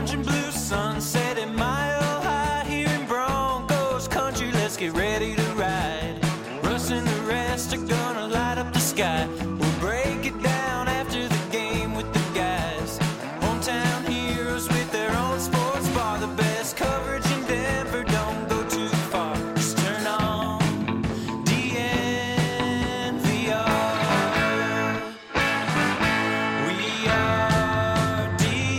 orange and blue sunset at Mile High here in Broncos country. Let's get ready to ride. Russ and the rest are gonna light up the sky. We'll break it down after the game with the guys. Hometown heroes with their own sports bar. The best coverage in Denver, don't go too far. Just turn on DNVR. We are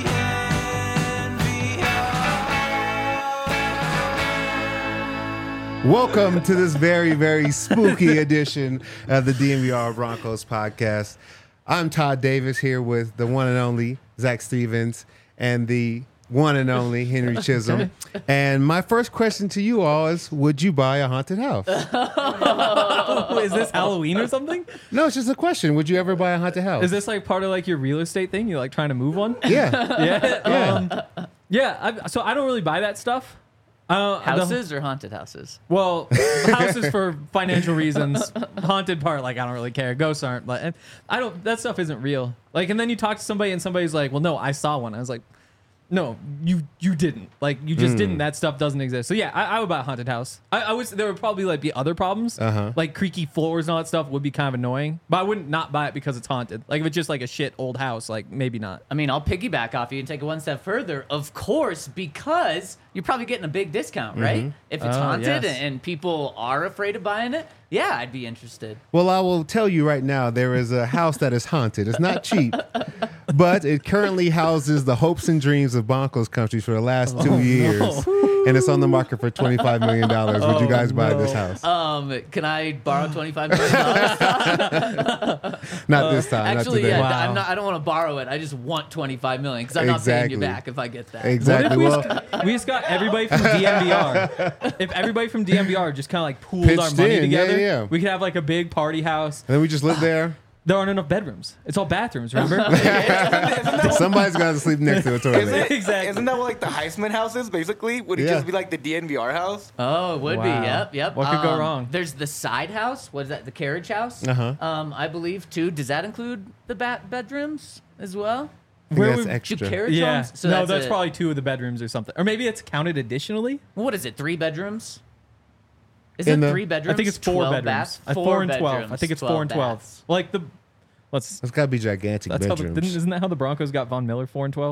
DNVR. Welcome to this very, very spooky edition of the DNVR Broncos podcast. I'm Todd Davis here with the one and only Zach Stevens and the one and only Henry Chisholm. And my first question to you all is, would you buy a haunted house? Is this Halloween or something? No, it's just a question. Would you ever buy a haunted house? Is this like part of like your real estate thing? You're like trying to move one? Yeah. Yeah. So I don't really buy that stuff. Houses or haunted houses? Well, houses for financial reasons. Haunted part, like I don't really care. Ghosts aren't. Like I don't. That stuff isn't real. Like, and then you talk to somebody and somebody's like, "Well, no, I saw one." I was like, "No, you didn't. Like, you just didn't. That stuff doesn't exist." So yeah, I would buy a haunted house. I would. There would probably like be other problems, like creaky floors and all that stuff would be kind of annoying. But I wouldn't not buy it because it's haunted. Like if it's just like a shit old house, like maybe not. I mean, I'll piggyback off you and take it one step further. Of course, because you're probably getting a big discount, right? If it's haunted yes. and people are afraid of buying it, yeah, I'd be interested. Well, I will tell you right now, there is a house that is haunted. It's not cheap, but it currently houses the hopes and dreams of Broncos country for the last 2 years. And it's on the market for $25 million. Would you guys buy this house? Can I borrow $25 million? Not this time. Actually, not today. yeah, Wow. I don't want to borrow it. I just want $25 million because I'm not paying you back if I get that. Exactly. What Well, if we just got everybody from DMVR? If everybody from DMVR just kind of like pooled our Pitched money in, together, yeah. we could have like a big party house. and then we just live there. There aren't enough bedrooms. It's all bathrooms, remember? Somebody's got to sleep next to a toilet. Exactly. Isn't that what like the Heisman house is basically? Would it Yeah. just be like the DNVR house? Oh, it would be. Wow. Yep. What could go wrong? There's the side house. What is that? The carriage house. I believe too. Does that include the bedrooms as well? I think Where that's would- extra. Do carriage Yeah. homes? So no, that's a- probably 2 of the bedrooms or something. Or maybe it's counted additionally. What is it? 3 bedrooms? Is In it the- 3 bedrooms? I think it's 4 12 bedrooms. baths? 4 and 12. bedrooms, I think it's 4 and 12. baths. Like the let's It's got to be gigantic that's how the, bedrooms. isn't that how the Broncos got Von Miller 4 and 12?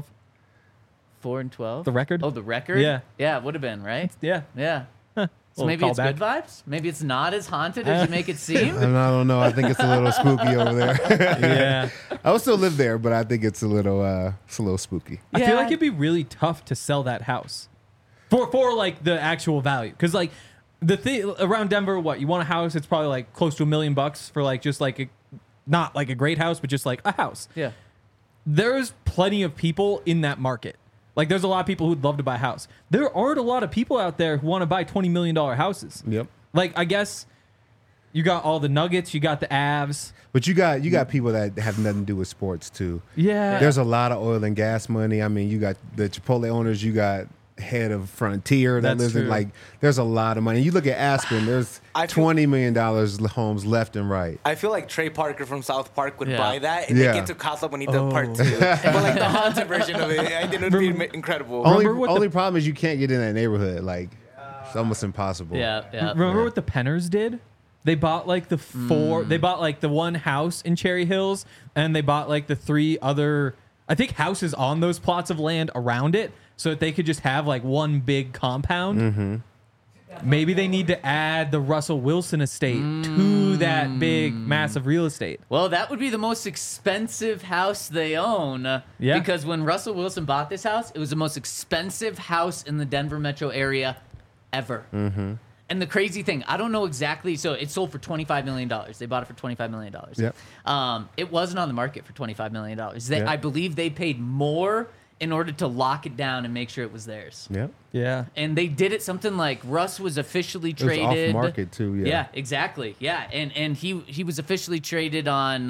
4 and 12. The record? Oh, the record. Yeah. Yeah, it would have been right. Yeah. Yeah. So Little maybe it's callback. good vibes. Maybe it's not as haunted as you make it seem. I don't know. I think it's a little spooky over there. Yeah. I would still live there, but I think it's a little spooky. I feel Yeah. like it'd be really tough to sell that house for like the actual value. Because like the thing around Denver, what you want a house, it's probably like close to $1 million for like just like a, not like a great house, but just like a house. Yeah. There's plenty of people in that market. Like there's a lot of people who'd love to buy a house. There aren't a lot of people out there who want to buy $20 million houses. Yep. Like I guess you got all the Nuggets, you got the Avs. But you got people that have nothing to do with sports too. Yeah. There's a lot of oil and gas money. I mean, you got the Chipotle owners. You got head of Frontier that That's lives in true. like. There's a lot of money. You look at Aspen. There's I feel- $20 million homes left and right. I feel like Trey Parker from South Park would Yeah. buy that and Yeah. make it to Casa Bonita Part 2. But like the haunted version of it, I think it would be incredible. Only problem is you can't get in that neighborhood. Like it's almost impossible. Yeah. Yeah. Remember what the Penners did? They bought like the 4. They bought like the one house in Cherry Hills, and they bought like the 3 other, I think, houses on those plots of land around it, so that they could just have like one big compound. Maybe they need to add the Russell Wilson estate to that big, massive real estate. Well, that would be the most expensive house they own. Yeah. Because when Russell Wilson bought this house, it was the most expensive house in the Denver metro area ever. And the crazy thing, I don't know exactly. So it sold for $25 million. They bought it for $25 million. Yep. It wasn't on the market for $25 million. Yep. I believe they paid more in order to lock it down and make sure it was theirs. Yep. Yeah. And they did it something like Russ was officially It was traded. off market too. Yeah. Yeah, exactly. Yeah, and he was officially traded on,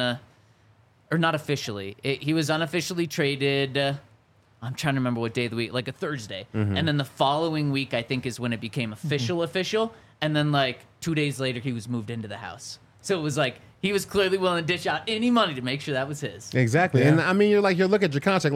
or not officially. He was unofficially traded. I'm trying to remember what day of the week, like a Thursday. And then the following week, I think, is when it became official. And then like 2 days later, he was moved into the house. So it was like he was clearly willing to dish out any money to make sure that was his. Exactly. Yeah. And I mean, you look at your contract, like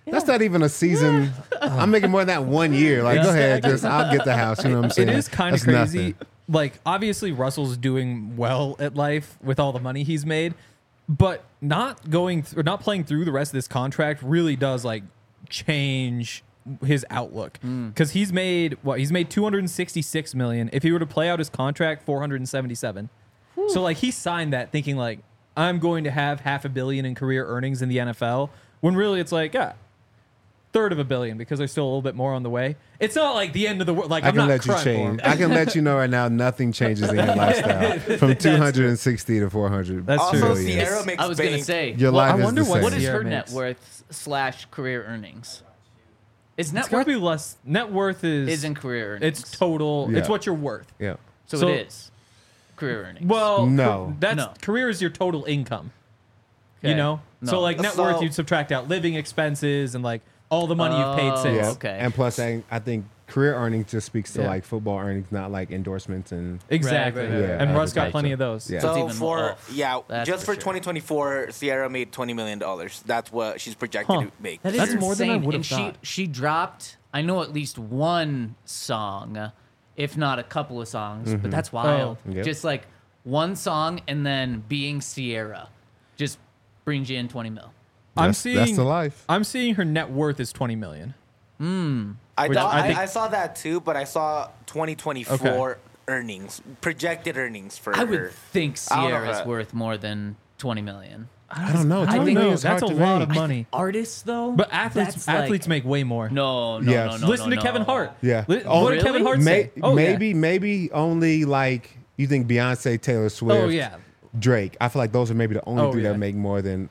That's not even a season. I'm making more than that 1 year. Like, go ahead, I'll get the house. You know what I'm saying? It is kind of That's crazy. nothing. Like, obviously, Russell's doing well at life with all the money he's made, but not playing through the rest of this contract really does like change his outlook, because he's made 266 million. If he were to play out his contract, 477. So like he signed that thinking like, I'm going to have $500 million in career earnings in the NFL, when really it's like third of $1 billion, because there's still a little bit more on the way. It's not like the end of the world. Like, I I'm can not let you crying for him. change. I can let you know right now, nothing changes in your lifestyle from 260 to 400. That's Also, true. billion. Sierra makes I was gonna bank. say, Your Well, life I is wonder the what same. what is Sierra her makes. net worth / career earnings? Is It's net gotta worth be less. Net worth is isn't career earnings? It's total. It's Yeah. what you're worth. Yeah. so it is career earnings. Well, No. that's career is your total income. Okay. You know, No. so like net So- worth, you'd subtract out living expenses and like all the money you've paid Oh, since. Yeah. okay. And plus, I think career earnings just speaks to Yeah. like football earnings, not like endorsements and Exactly. Right, right, right. And Yeah, Russ got advertising. plenty of those. Yeah. That's So even for more. That's just for for sure. 2024, Sierra made $20 million. That's what she's projected Huh. to make. That is That's more than I insane. would've And thought. she dropped, I know, at least one song, if not a couple of songs, but that's wild. Oh. Yep. Just like one song and then being Sierra just brings you in 20 mil. that's the life. I'm seeing her net worth is 20 million. I, Which thought, I think- I saw that too, but I saw 2024 earnings, projected earnings for I her. would think I don't know Sierra's that. worth more than 20 million. I don't know. I don't 20 know. million is That's a hard to lot make. of money. Artists, though? But athletes that's like- athletes make way more. No, Yes. no. Listen to Kevin Hart. Yeah. What Oh, did Kevin really? Hart say? Oh, yeah. Maybe only like you think Beyonce, Taylor Swift, Oh yeah. Drake. I feel like those are maybe the only Oh, three yeah. that make more than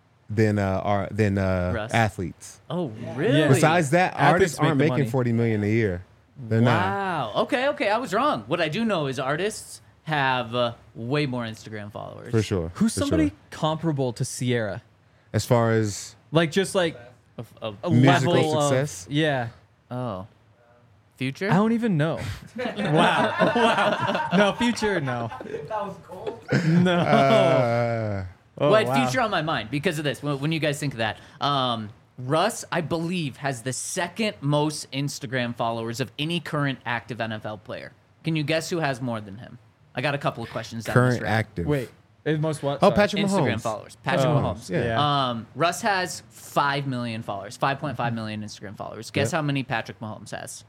Russ. athletes. Oh, really? Yeah. Besides that, Athletes artists make aren't the making money. 40 million a year. They're not. Wow. Okay. I was wrong. What I do know is artists have way more Instagram followers. For sure. Who's for somebody sure. comparable to Sierra? As far as Like just like a Musical level success? Of, yeah. Oh. Future? I don't even know. wow. No, Future, no. That was cold. No. Oh, well, I had wow. Future on my mind because of this. When you guys think of that, Russ, I believe, has the second most Instagram followers of any current active NFL player. Can you guess who has more than him? I got a couple of questions. Down current this route. active. Wait. Most what? Oh, Sorry. Patrick Instagram Mahomes. followers. Patrick Oh, Mahomes. yeah. Russ has 5 million followers, 5.5 million Instagram followers. Guess Yeah. how many Patrick Mahomes has?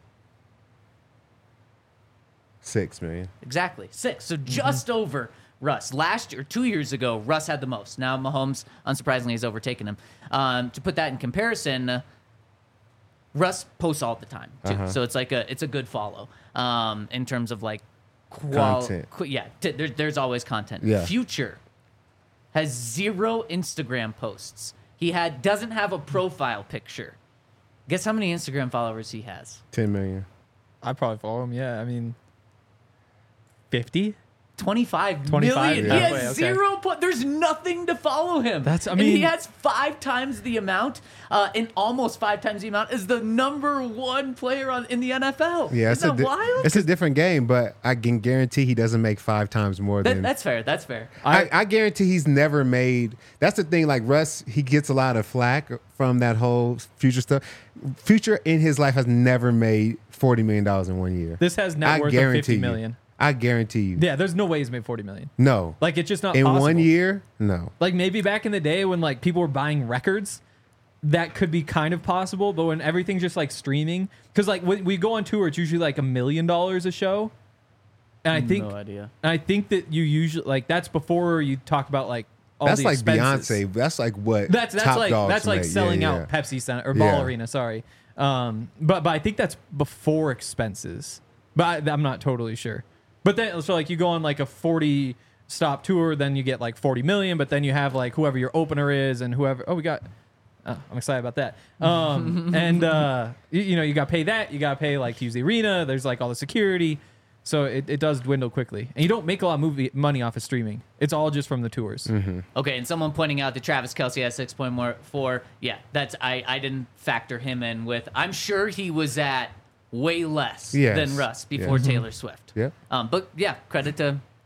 6 million. Exactly, 6. So just over Russ. Last year, 2 years ago, Russ had the most. Now Mahomes, unsurprisingly, has overtaken him. To put that in comparison, Russ posts all the time too, so it's like it's a good follow in terms of like Content. There's always content. Yeah. Future has 0 Instagram posts. He doesn't have a profile picture. Guess how many Instagram followers he has? 10 million. I probably follow him. Yeah. I mean, 50? 25 25, million. yeah. He has Okay. 0. There's nothing to follow him. That's- I and he mean- has 5 times the amount, and almost 5 times the amount as the number 1 player in the NFL. Yeah, Isn't that wild? it's a different game, but I can guarantee he doesn't make 5 times more than. That's fair. That's fair. I guarantee he's never made. That's the thing. Like Russ, he gets a lot of flack from that whole Future stuff. Future in his life has never made $40 million in 1 year. This has net I worth of guarantee 50 you. million. I guarantee you. Yeah, there's no way he's made 40 million. No. Like, it's just not in possible. 1 year, no. Like, maybe back in the day when, like, people were buying records, that could be kind of possible. But when everything's just, like, streaming, because, like, when we go on tour, it's usually, like, $1 million a show. And I think, no idea. and I think that you usually, like, that's before you talk about, like, all That's the like expenses. Beyonce. That's like what That's Top like Dogs that's like make. selling Yeah, out yeah. Pepsi Center or Ball Yeah. Arena. Sorry, but I think that's before expenses. But I'm not totally sure. But then so like you go on like a 40 stop tour, then you get like 40 million. But then you have like whoever your opener is and whoever. Oh, we got. I'm excited about that. And you know you got to pay that. You got to pay like to use the arena. There's like all the security. So it does dwindle quickly, and you don't make a lot of money off of streaming. It's all just from the tours. Mm-hmm. Okay, and someone pointing out that Travis Kelce has 6.4. Yeah, that's I didn't factor him in with. I'm sure he was at way less Yes. than Russ before Yeah. Taylor Swift. Yeah. But yeah, credit to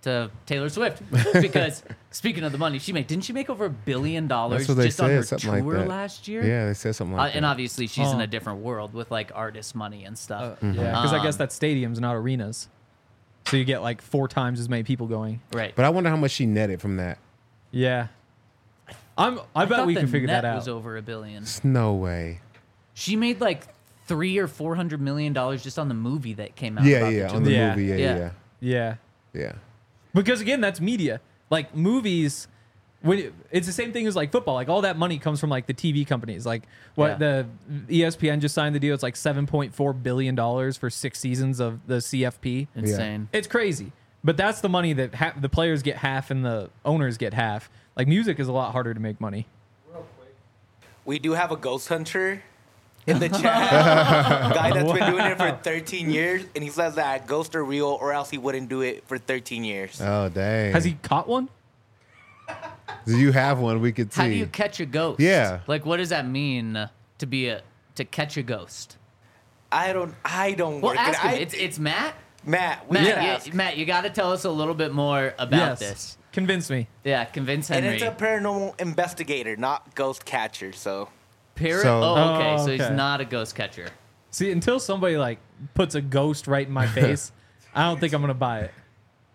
to Taylor Swift because speaking of the money she made, didn't she make over $1 billion That's what they just on her said, something tour like that. last year? Yeah, they said something like And that. obviously she's in Oh. a different world with like artist money and stuff. Yeah, because I guess Um, that's stadiums, not arenas. So you get like 4 times as many people going. Right. But I wonder how much she netted from that. Yeah. I bet thought we the can figure net that out. was over $1 billion. There's no way. She made like $300 or $400 million just on the movie that came out. Yeah, about yeah, the on the Yeah. movie. Yeah, Yeah. yeah, Yeah. yeah. Because again, that's media. Like movies, it's the same thing as like football. Like all that money comes from like the TV companies. Like what the ESPN just signed the deal. It's like $7.4 billion for 6 seasons of the CFP. Insane. It's crazy. But that's the money that the players get half and the owners get half. Like music is a lot harder to make money. We do have a ghost hunter in the chat. Guy that's been doing it for 13 years, and he says that ghosts are real, or else he wouldn't do it for 13 years. Oh, dang. Has he caught one? Do you have one we could see? How do you catch a ghost? Yeah. Like, what does that mean to catch a ghost? I don't Well, work ask it. him. It's Matt. Matt, we Matt, should yeah, ask. Matt, you got to tell us a little bit more about this. Convince me. Yeah, convince And Henry. it's a paranormal investigator, not ghost catcher. So Parrot? So- Oh, okay. Oh, So he's okay. not a ghost catcher. See, until somebody like puts a ghost right in my face, I don't think I'm gonna buy it.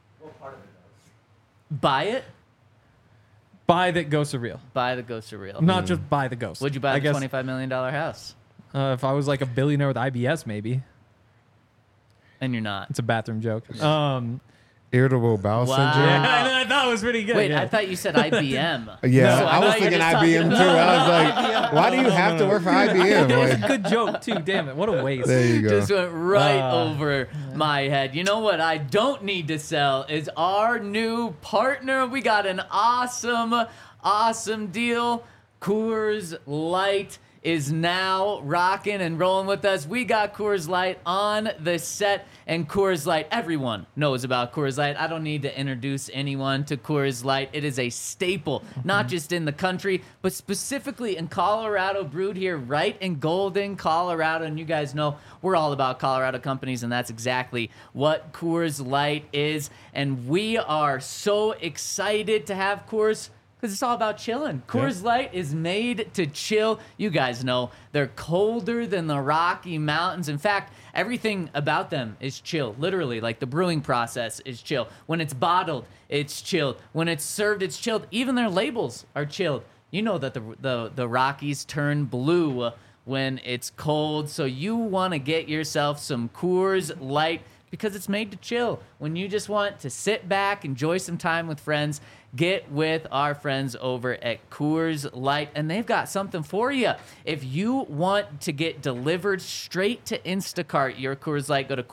Buy it. Buy that ghosts are real. Buy the ghosts are real. Not just buy the ghost. Would you buy I the guess, $25 million house? if I was like a billionaire with IBS, maybe. And you're not. It's a bathroom joke. Irritable bowel Wow. syndrome? I thought it was pretty good. Wait, yeah. I thought you said IBM. Yeah, So I was thought you were thinking just talking IBM too. I was like, why do you have to work for IBM? It was a Like, good joke too. Damn it! What a waste. there you go. Just went right over my head. You know what I don't need to sell is our new partner. We got an awesome deal. Coors Light is now rocking and rolling with us. We got Coors Light on the set, and Coors Light, everyone knows about Coors Light. I don't need to introduce anyone to Coors Light. It is a staple, not just in the country, but specifically in Colorado, brewed here right in Golden, Colorado. And you guys know we're all about Colorado companies, and that's exactly what Coors Light is. And we are so excited to have Coors, because it's all about chilling. Coors Light is made to chill. You guys know they're colder than the Rocky Mountains. In fact, everything about them is chill. Literally, like the brewing process is chill. When it's bottled, it's chilled. When it's served, it's chilled. Even their labels are chilled. You know that the Rockies turn blue when it's cold. So you want to get yourself some Coors Light because it's made to chill. When you just want to sit back, enjoy some time with friends, get with our friends over at Coors Light, and they've got something for you. If you want to get delivered straight to Instacart your Coors Light, go to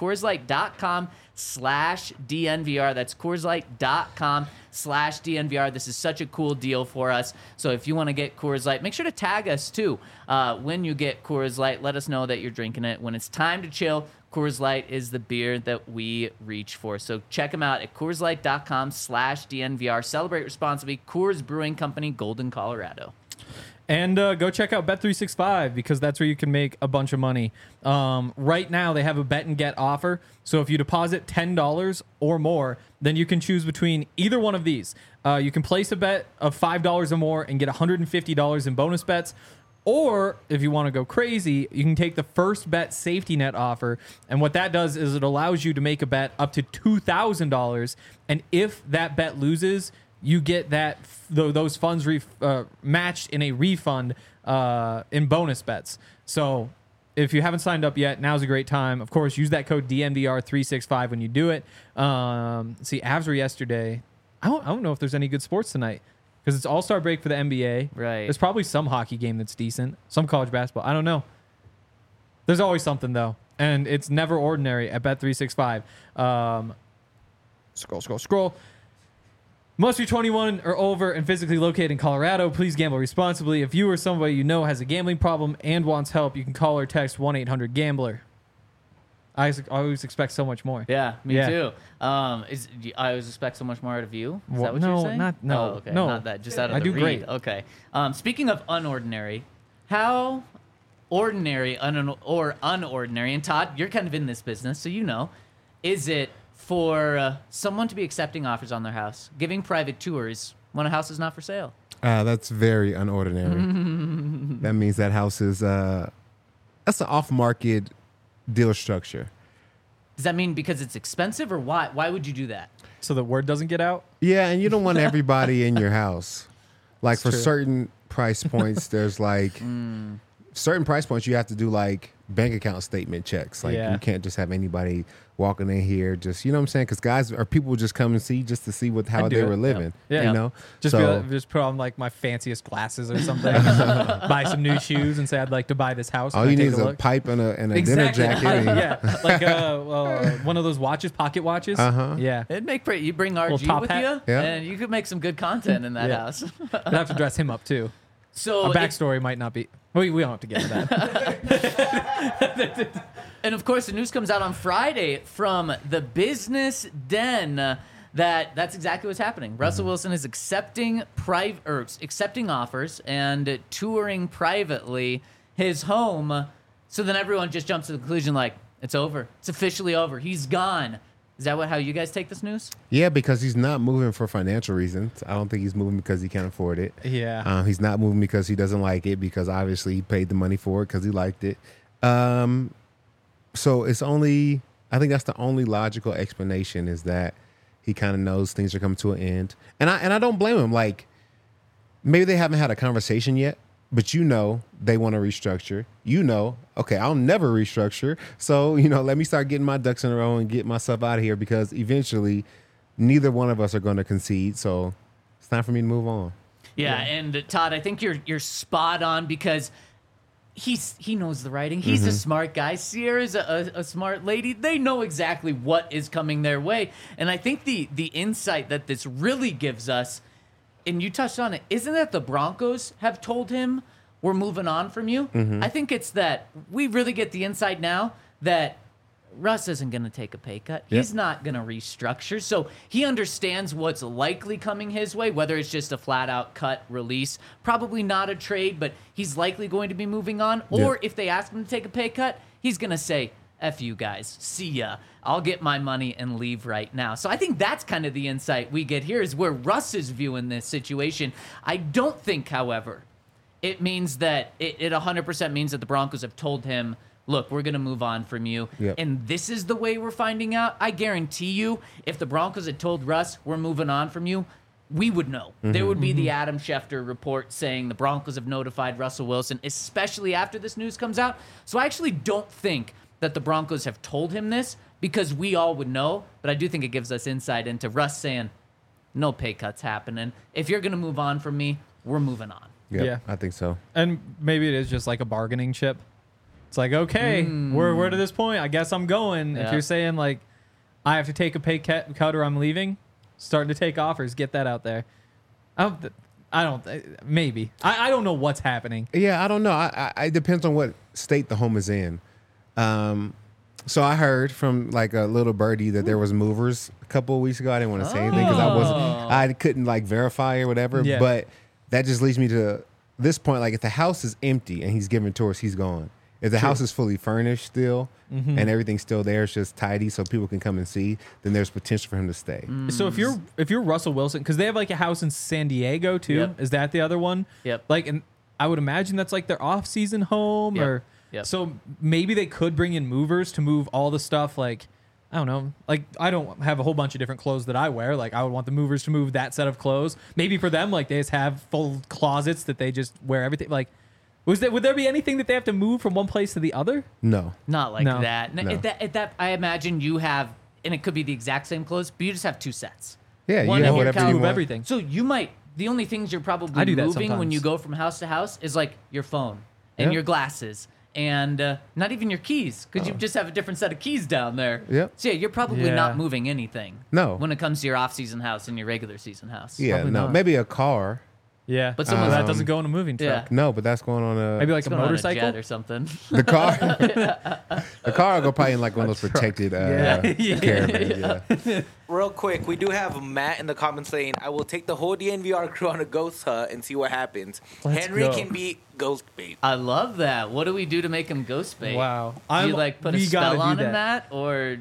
CoorsLight.com/DNVR. That's CoorsLight.com/DNVR. This is such a cool deal for us. So if you want to get Coors Light, make sure to tag us too. When you get Coors Light, let us know that you're drinking it. When it's time to chill, Coors Light is the beer that we reach for. So check them out at CoorsLight.com/DNVR. Celebrate responsibly. Coors Brewing Company, Golden, Colorado. And go check out Bet365 because that's where you can make a bunch of money. Right now, they have a bet and get offer. So if you deposit $10 or more, then you can choose between either one of these. You can place a bet of $5 or more and get $150 in bonus bets. Or if you want to go crazy, you can take the first bet safety net offer. And what that does is it allows you to make a bet up to $2,000. And if that bet loses, you get those funds matched in a refund in bonus bets. So if you haven't signed up yet, now's a great time. Of course, use that code DNVR365 when you do it. See, Avs were yesterday. I don't know if there's any good sports tonight because it's All-Star break for the NBA. Right. There's probably some hockey game that's decent, some college basketball. I don't know. There's always something, though. And it's never ordinary at Bet365. Scroll. Must be 21 or over and physically located in Colorado. Please gamble responsibly. If you or somebody you know has a gambling problem and wants help, you can call or text 1-800-GAMBLER. I always expect so much more. Yeah, me Yeah. too. I always expect so much more out of you. Is that what No, you're saying? no, Oh, okay. no. Not that. Just out of I the do read. great. Okay. Speaking of unordinary, how ordinary or unordinary, and Todd, you're kind of in this business, so you know, is it for someone to be accepting offers on their house, giving private tours when a house is not for sale? That's very unordinary. That means that house is that's an off-market deal structure. Does that mean because it's expensive, or why? Why would you do that? So the word doesn't get out. Yeah, and you don't want everybody in your house. Like for true. certain price points, there's like certain price points you have to do like bank account statement checks. Like Yeah. you can't just have anybody walking in here just, you know what I'm saying? Because guys or people just come and see just to see how I'd do they it. were living. Yeah. You know? Just just put on like my fanciest glasses or something. Buy some new shoes and say I'd like to buy this house. all Can I you need take is a look? pipe and a dinner Exactly. jacket. and- Yeah, like one of those watches, pocket watches. Uh-huh. Yeah, It'd make you bring RG top with hat. you, Yeah. and you could make some good content in that Yeah. house. I'd have to dress him up too. So, A if- backstory might not be. We don't have to get to that. and of course, the news comes out on Friday from the Business Den that's exactly what's happening. Russell Wilson is accepting offers and touring privately his home. So then everyone just jumps to the conclusion like it's over. It's officially over. He's gone. Is that how you guys take this news? Yeah, because he's not moving for financial reasons. I don't think he's moving because he can't afford it. Yeah. He's not moving because he doesn't like it, because obviously he paid the money for it because he liked it. So it's only, I think that's the only logical explanation, is that he kind of knows things are coming to an end. And I don't blame him. Like, maybe they haven't had a conversation yet, but they want to restructure. Okay, I'll never restructure. So, let me start getting my ducks in a row and get myself out of here, because eventually neither one of us are going to concede. So it's time for me to move on. Yeah, and Todd, I think you're spot on, because he knows the writing. He's a smart guy. Sierra's a smart lady. They know exactly what is coming their way. And I think the insight that this really gives us, and you touched on it, isn't that the Broncos have told him we're moving on from you? I think it's that we really get the insight now that Russ isn't going to take a pay cut. Yep. He's not going to restructure. So he understands what's likely coming his way, whether it's just a flat-out cut release, probably not a trade, but he's likely going to be moving on. Or if they ask him to take a pay cut, he's going to say, F you guys, see ya. I'll get my money and leave right now. So I think that's kind of the insight we get here, is where Russ is viewing this situation. I don't think, however, it means that it 100% means that the Broncos have told him, look, we're going to move on from you. Yep. And this is the way we're finding out. I guarantee you, if the Broncos had told Russ, we're moving on from you, we would know. There would be the Adam Schefter report saying the Broncos have notified Russell Wilson, especially after this news comes out. So I actually don't think that the Broncos have told him this, because we all would know. But I do think it gives us insight into Russ saying, no pay cuts happening. If you're going to move on from me, we're moving on. Yep, Yeah. I think so. And maybe it is just like a bargaining chip. It's like, okay, we're to this point. I guess I'm going. Yeah. If you're saying like, I have to take a pay cut or I'm leaving, starting to take offers. Get that out there. Maybe. I don't know what's happening. Yeah, I don't know. It depends on what state the home is in. So I heard from like a little birdie that there was movers a couple of weeks ago. I didn't want to say anything because I couldn't like verify or whatever. Yeah. But that just leads me to this point. Like, if the house is empty and he's giving tours, he's gone. If the house is fully furnished still and everything's still there, it's just tidy so people can come and see, then there's potential for him to stay. So if you're Russell Wilson, because they have like a house in San Diego too. Yep. Is that the other one? Yep. Like, and I would imagine that's like their off-season home, Yep. or Yep. so maybe they could bring in movers to move all the stuff. Like, I don't know. Like, I don't have a whole bunch of different clothes that I wear. Like, I would want the movers to move that set of clothes. Maybe for them, like, they just have full closets that they just wear everything. Like, would there be anything that they have to move from one place to the other? No. Not like No. that. No. At that, I imagine you have, and it could be the exact same clothes, but you just have two sets. Yeah, you One have in your whatever couch. you Move want. everything. So you might, the only things you're I probably do that moving when sometimes. you go from house to house is like your phone and Yeah. your glasses and not even your keys, because you just have a different set of keys down there. Yep. So yeah, you're probably Yeah. not moving anything. No. When it comes to your off-season house and your regular season house. Yeah, Probably no. not. Maybe a car. Yeah, But some some of of that doesn't go in a moving truck. Yeah. No, but that's going on a Maybe like It's a going on motorcycle. jet or something. the car. The car will go probably in like one of those protected caravans. Yeah. Real quick, we do have Matt in the comments saying, I will take the whole DNVR crew on a ghost hunt and see what happens. Let's Henry go. can be ghost bait. I love that. What do we do to make him ghost bait? Wow. Do you like put a we gotta spell do on him, that. Matt? Or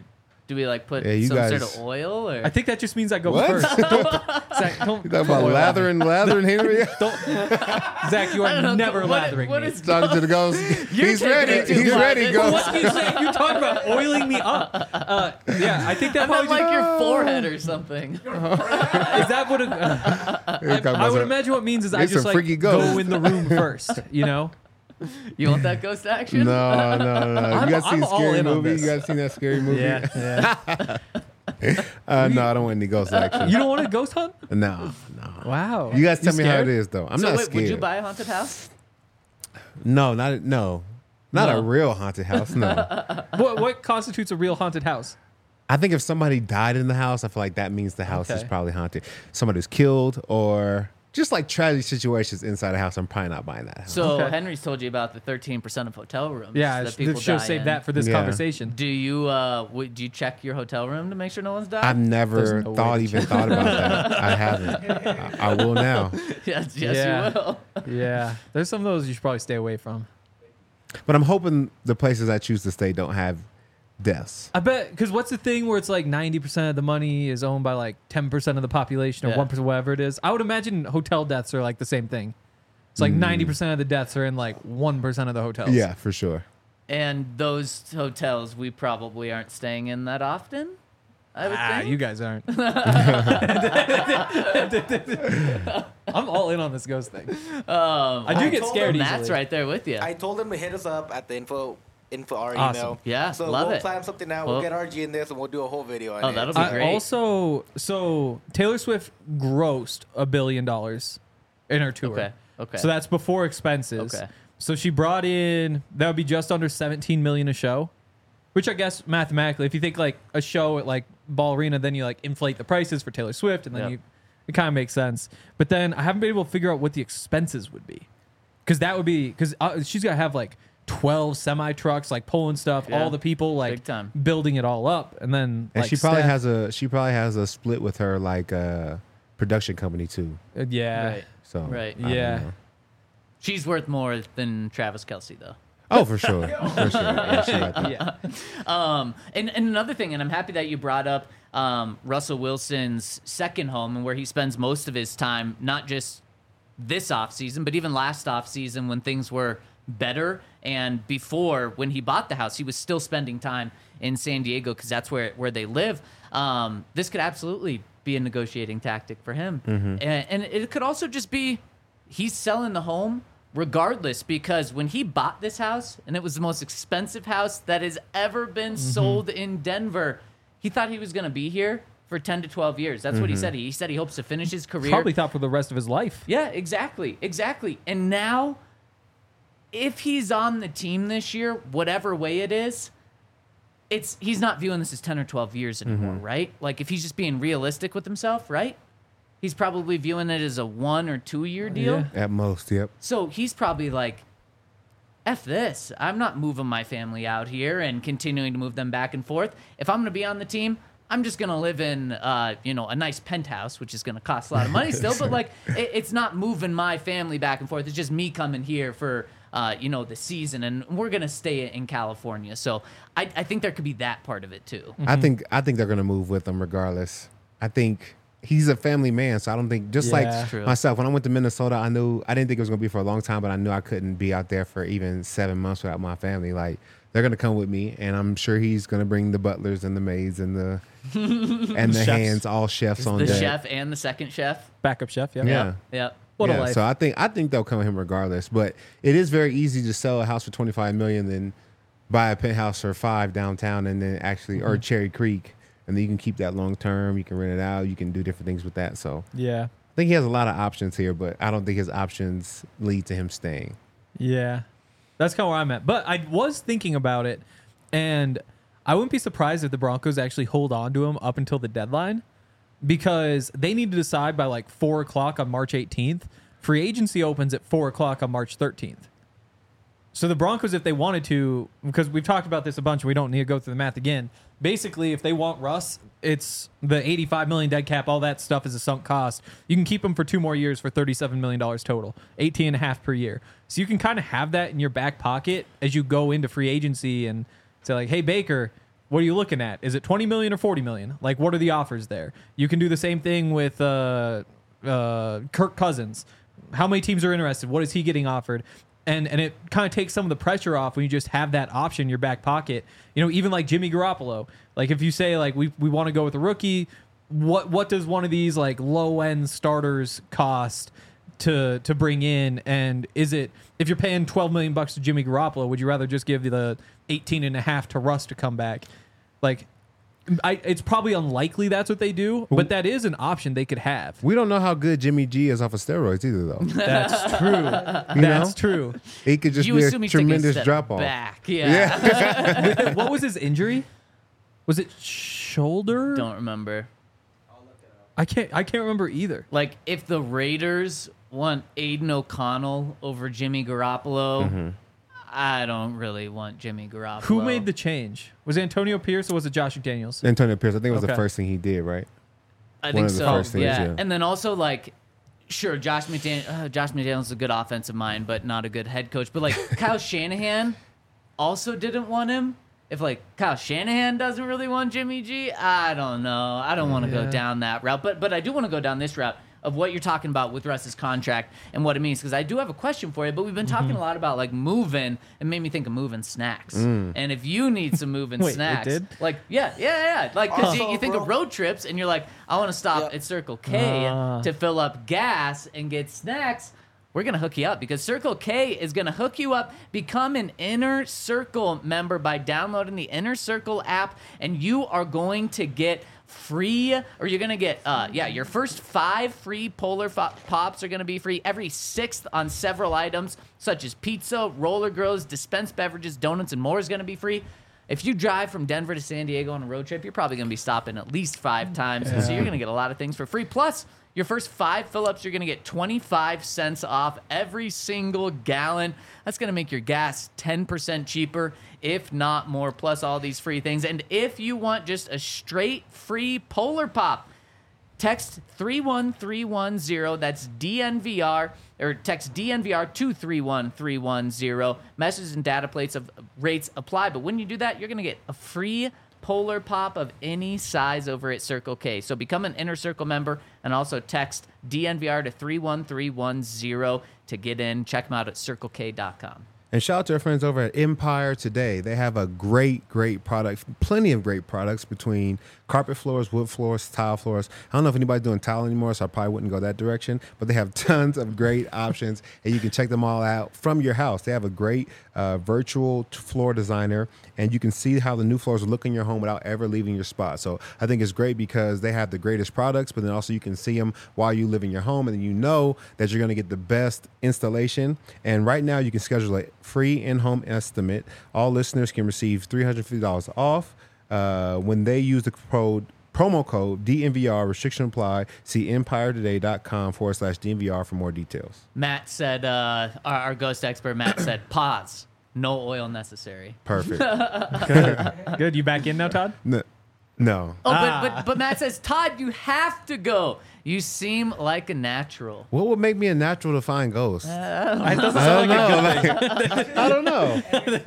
Do we like put Yeah, you some sort guys- of oil or? I think that just means I go What? first. Zach, don't, You talking about lathering Henry? Zach, you I don't are know, never what- lathering what me. is- Talking to the ghost. He's taking ready. it too He's far. ready, This- ghost. What do you say? You talk about oiling me up. Yeah, I think that I probably meant like your forehead or something. is that what it, I would imagine what it means is I It's just a like freaky ghost. go in the room first, you know? You want that ghost action? No. You guys seen I'm all Scary in on Movie? this. You guys seen that Scary Movie? Yeah. No, I don't want any ghost action. You don't want a ghost hunt? No. Wow. You guys tell me how scared? it is, though. I'm So not wait, scared. would you buy a haunted house? No, not No. a real haunted house. No. What constitutes a real haunted house? I think if somebody died in the house, I feel like that means the house is Okay. probably haunted. Somebody was killed or just like tragic situations inside a house. I'm probably not buying that house. So Okay. Henry's told you about the 13% of hotel rooms. Yeah, that people should die save in. that for this Yeah. conversation. Do you do you check your hotel room to make sure no one's died? I've never There's no way to even thought about that. I haven't. I will now. yes, Yeah. you will. Yeah, there's some of those you should probably stay away from. But I'm hoping the places I choose to stay don't have deaths. I bet, because what's the thing where it's like 90% of the money is owned by like 10% of the population or Yeah. 1%, whatever it is? I would imagine hotel deaths are like the same thing. It's like 90% of the deaths are in like 1% of the hotels. Yeah, for sure. And those hotels we probably aren't staying in that often. I would think. You guys aren't. I'm all in on this ghost thing. I do get told scared him easily. Matt's right there with you. I told him to hit us up at the info our Awesome. email. Yeah, so love we'll it. plan something out. Well- We'll get RG in this and we'll do a whole video on Oh, it. that'll be great. Also, so Taylor Swift grossed $1 billion in her tour. Okay. So that's before expenses. Okay. So she brought in, that would be just under 17 million a show, which I guess mathematically, if you think like a show at like Ball Arena, then you like inflate the prices for Taylor Swift, and then Yep. it kind of makes sense. But then I haven't been able to figure out what the expenses would be, because that would be because she's got to have like 12 semi trucks like pulling stuff, Yeah. all the people like Big time. building it all up, and then And like, she probably staff. has a split with her like production company too. Yeah. Right. So Right. I don't Yeah. know. She's worth more than Travis Kelce, though. Oh, for sure. For sure. Yeah, she got that. Yeah. And another thing, and I'm happy that you brought up Russell Wilson's second home and where he spends most of his time, not just this offseason, but even last offseason when things were better. And before, when he bought the house, he was still spending time in San Diego because that's where they live. This could absolutely be a negotiating tactic for him. And it could also just be he's selling the home regardless, because when he bought this house, and it was the most expensive house that has ever been sold in Denver, he thought he was going to be here for 10 to 12 years. That's what he said. He said he hopes to finish his career. Probably thought for the rest of his life. Yeah, exactly. And now, if he's on the team this year, whatever way it is, he's not viewing this as 10 or 12 years anymore, right? Like, if he's just being realistic with himself, right? He's probably viewing it as a 1 or 2 year deal. Yeah. At most, yep. So he's probably like, F this. I'm not moving my family out here and continuing to move them back and forth. If I'm going to be on the team, I'm just going to live in, a nice penthouse, which is going to cost a lot of money still. But, like, it's not moving my family back and forth. It's just me coming here for, the season. And we're going to stay in California. So I think there could be that part of it, too. I think they're gonna move with him regardless. I think he's a family man, so I don't think Yeah. like True. myself when I went to Minnesota, I didn't think it was gonna be for a long time, but I knew I couldn't be out there for even 7 months without my family. Like they're gonna come with me, and I'm sure he's gonna bring the butlers and the maids and the and the Chefs. hands, all chefs on The deck. chef and the second chef. Backup chef. Yeah. Yeah. Yep. What a Yeah, life. so I think they'll come with him regardless. But it is very easy to sell a house for $25 million than buy a penthouse for $5 million downtown and then actually or Cherry Creek, and then you can keep that long term. You can rent it out. You can do different things with that. So Yeah. I think he has a lot of options here, but I don't think his options lead to him staying. Yeah. That's kind of where I'm at. But I was thinking about it, and I wouldn't be surprised if the Broncos actually hold on to him up until the deadline, because they need to decide by like 4 o'clock on March 18th. Free agency opens at 4 o'clock on March 13th. So the Broncos, if they wanted to, because we've talked about this a bunch, and we don't need to go through the math again. Basically, if they want Russ, it's the $85 million dead cap. All that stuff is a sunk cost. You can keep him for 2 more years for $37 million total, 18.5 per year. So you can kind of have that in your back pocket as you go into free agency and say like, hey, Baker, what are you looking at? Is it 20 million or 40 million? Like, what are the offers there? You can do the same thing with Kirk Cousins. How many teams are interested? What is he getting offered? And it kind of takes some of the pressure off when you just have that option in your back pocket. You know, even like Jimmy Garoppolo. Like, if you say, like, we want to go with a rookie, what does one of these, like, low-end starters cost to bring in? And is it, if you're paying $12 million to Jimmy Garoppolo, would you rather just give the 18.5 to Russ to come back? Like, it's probably unlikely that's what they do, but that is an option they could have. We don't know how good Jimmy G is off of steroids either, though. That's true. That's true. He could just You be a assume he's taking a tremendous step drop off. back. Yeah. What was his injury? Was it shoulder? Don't remember. I can't remember either. Like, if the Raiders want Aiden O'Connell over Jimmy Garoppolo, I don't really want Jimmy Garoppolo. Who made the change? Was it Antonio Pierce or was it Josh McDaniels? Antonio Pierce, I think it was the Okay. first thing he did, right? I one think of the so. first things, Yeah. yeah. And then also, like, sure, Josh McDaniels is a good offensive mind, but not a good head coach. But, like, Kyle Shanahan also didn't want him. If, like, Kyle Shanahan doesn't really want Jimmy G, I don't know. I don't want to go down that route. But I do want to go down this route of what you're talking about with Russ's contract and what it means, because I do have a question for you. But we've been talking a lot about, like, moving, and made me think of moving snacks. And if you need some moving Wait, it snacks, did? like, yeah. Like, because Also, you think bro. of road trips, and you're like, I want to stop Yep. at Circle K to fill up gas and get snacks. We're going to hook you up because Circle K is going to hook you up. Become an Inner Circle member by downloading the Inner Circle app, and you are going to get free, or you're going to get, your first 5 free Polar Pops are going to be free. Every 6th on several items, such as pizza, roller grills, dispensed beverages, donuts, and more is going to be free. If you drive from Denver to San Diego on a road trip, you're probably going to be stopping at least 5 times. So you're going to get a lot of things for free. Plus, your first 5 fill-ups, you're going to get 25 cents off every single gallon. That's going to make your gas 10% cheaper, if not more, plus all these free things. And if you want just a straight free Polar Pop, text 31310, that's DNVR, or text DNVR to 31310. Messages and data rates apply, but when you do that, you're going to get a free Polar Pop of any size over at Circle K. So become an Inner Circle member and also text DNVR to 31310 to get in. Check them out at circlek.com. And shout out to our friends over at Empire Today. They have a great product, plenty of great products between carpet floors, wood floors, tile floors. I don't know if anybody's doing tile anymore, so I probably wouldn't go that direction. But they have tons of great options, and you can check them all out from your house. They have a great virtual floor designer, and you can see how the new floors will look in your home without ever leaving your spot. So I think it's great because they have the greatest products, but then also you can see them while you live in your home, and then you know that you're going to get the best installation. And right now you can schedule a free in-home estimate. All listeners can receive $350 off when they use the promo code DNVR. Restriction apply. See EmpireToday.com/DNVR for more details. Matt said, our ghost expert, Matt said, pause. No oil necessary. Perfect. Good. You back in now, Todd? No. Oh, but Matt says, Todd, you have to go. You seem like a natural. What would make me a natural to find ghosts? It doesn't sound like a good thing. I don't know.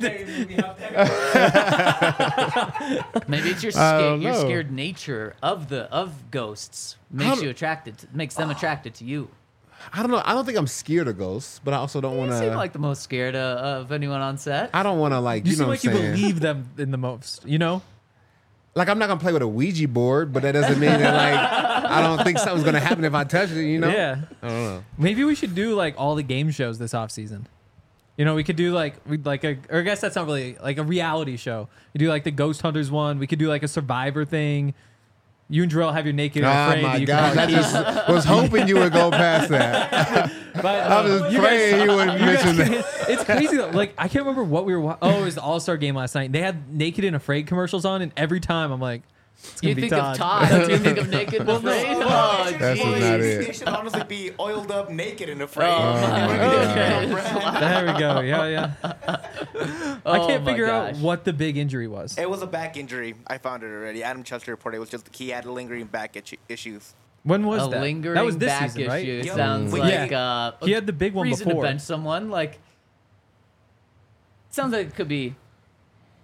Maybe it's your don't your know. scared nature of ghosts makes makes them attracted to you. I don't know. I don't think I'm scared of ghosts, but I also don't want You seem to. like the most scared of anyone on set. I don't want to You seem know like what you I'm saying? believe them in the most, you know? Like, I'm not gonna play with a Ouija board, but that doesn't mean that I don't think something's gonna happen if I touch it. You know? Yeah. I don't know. Maybe we should do like all the game shows this offseason. You know, we could do or I guess that's not really like a reality show. We do like the Ghost Hunters one. We could do like a Survivor thing. You and Jarrell have your naked and Oh afraid. my that you gosh! I can just was hoping you would go past that. but, I was just praying you wouldn't mention that. It's crazy though. Like I can't remember what we were. Oh, it was the All-Star game last night. They had Naked and Afraid commercials on, and every time I'm like, it's gonna You be think Todd. of Todd. You think of Naked and Afraid. Oh, That's geez. not It it. should honestly be oiled up, naked, and afraid. Oh, There we go. Yeah. I can't my figure out gosh. what the big injury was. It was a back injury. I found it already. Adam Chester reported it was just he had lingering back issues. When was A that? lingering That was this back season, right? issue. Yep. Sounds But like He had the big one reason before. to bench someone. Like, sounds like it could be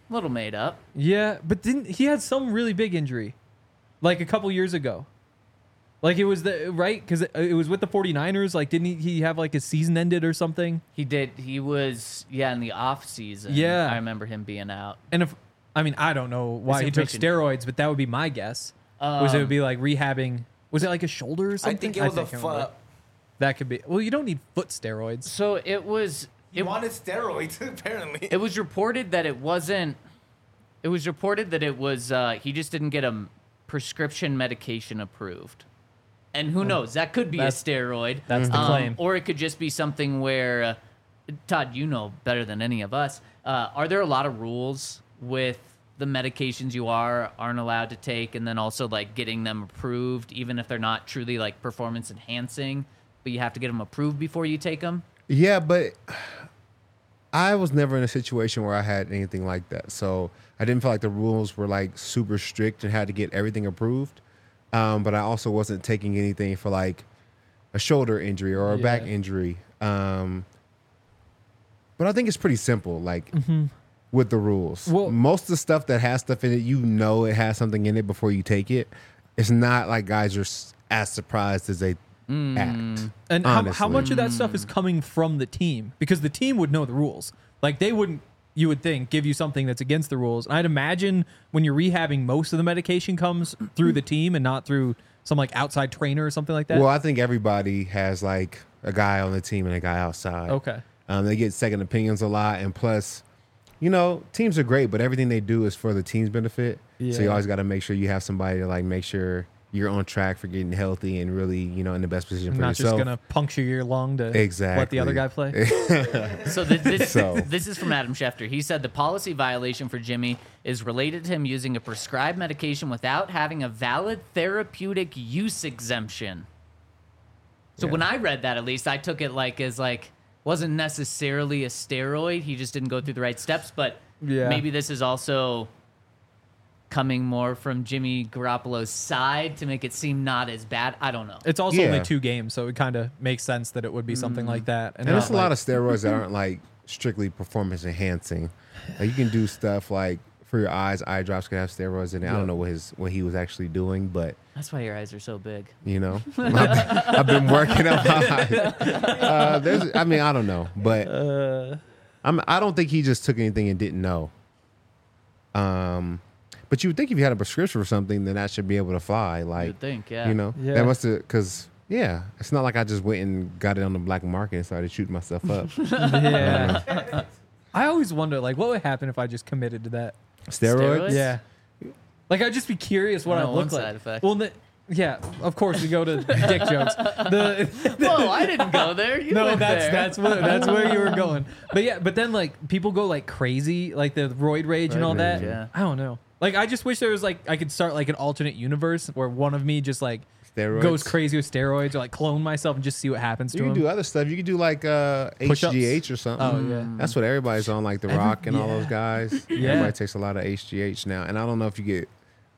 A little made up. Yeah, but didn't he had some really big injury, like a couple years ago? Like it was right because it was with the 49ers. Like didn't he have like his season ended or something? He did. He was in the off season. Yeah. I remember him being out. And I don't know why he took information- steroids, but that would be my guess. Was it would be like rehabbing? Was it like a shoulder or I something? think it was a can't remember. foot. That could be. Well, you don't need foot steroids. So it was. He wanted steroids, apparently. It was reported that it wasn't. It was reported that it was. He just didn't get a prescription medication approved, and who knows? That could be a That's- steroid. That's the claim. Or it could just be something where, Todd, you know better than any of us. Are there a lot of rules with the medications you aren't allowed to take, and then also like getting them approved, even if they're not truly like performance enhancing, but you have to get them approved before you take them? Yeah, but I was never in a situation where I had anything like that. So I didn't feel like the rules were like super strict and had to get everything approved. But I also wasn't taking anything for like a shoulder injury or a back injury. But I think it's pretty simple, like with the rules. Well- Most of the stuff that has stuff in it, you know it has something in it before you take it. It's not like guys are as surprised as they act. And how honestly. much of that stuff is coming from the team? Because the team would know the rules. Like they wouldn't, you would think, give you something that's against the rules. And I'd imagine when you're rehabbing, most of the medication comes through the team and not through some like outside trainer or something like that. Well, I think everybody has like a guy on the team and a guy outside. Okay. They get second opinions a lot, and plus, you know, teams are great, but everything they do is for the team's benefit. So you Yeah. always got to make sure you have somebody to like make sure you're on track for getting healthy and really, you know, in the best position for Not yourself. just gonna puncture your lung to Exactly. let the other guy play. So this, So- this is from Adam Schefter. He said the policy violation for Jimmy is related to him using a prescribed medication without having a valid therapeutic use exemption. So when I read that, at least I took it like as like wasn't necessarily a steroid. He just didn't go through the right steps. But Yeah. maybe this is also coming more from Jimmy Garoppolo's side to make it seem not as bad. I don't know. It's also Yeah. only 2 games, so it kind of makes sense that it would be something like that. And there's a lot of steroids that aren't like strictly performance enhancing. Like you can do stuff like for your eyes, eye drops can have steroids in it. I don't know what he was actually doing, but That's why your eyes are so big. you know, I've been working up my eyes. I don't know, but I don't think he just took anything and didn't know. But you would think if you had a prescription for something, then that should be able to fly. Like, You'd think, yeah. you know, Yeah. that must have because. Yeah, it's not like I just went and got it on the black market and started shooting myself up. Yeah. I always wonder, like, what would happen if I just committed to that? Steroids? Steroids? Yeah. Like, I'd just be curious what I I'd know look one like. side effect. Well, yeah, of course we go to dick jokes. Whoa, I didn't go there. You No, went there. that's where you were going. But yeah, but then like people go like crazy, like the roid rage and all that. rage, yeah. I don't know. Like I just wish there was like I could start like an alternate universe where one of me just like Steroids? goes crazy with steroids or like clone myself and just see what happens You to can him. do other stuff. You can do like Push-ups? HGH or something. Oh, yeah. That's what everybody's on, like The Rock and all those guys. Yeah. Everybody takes a lot of HGH now. And I don't know if you get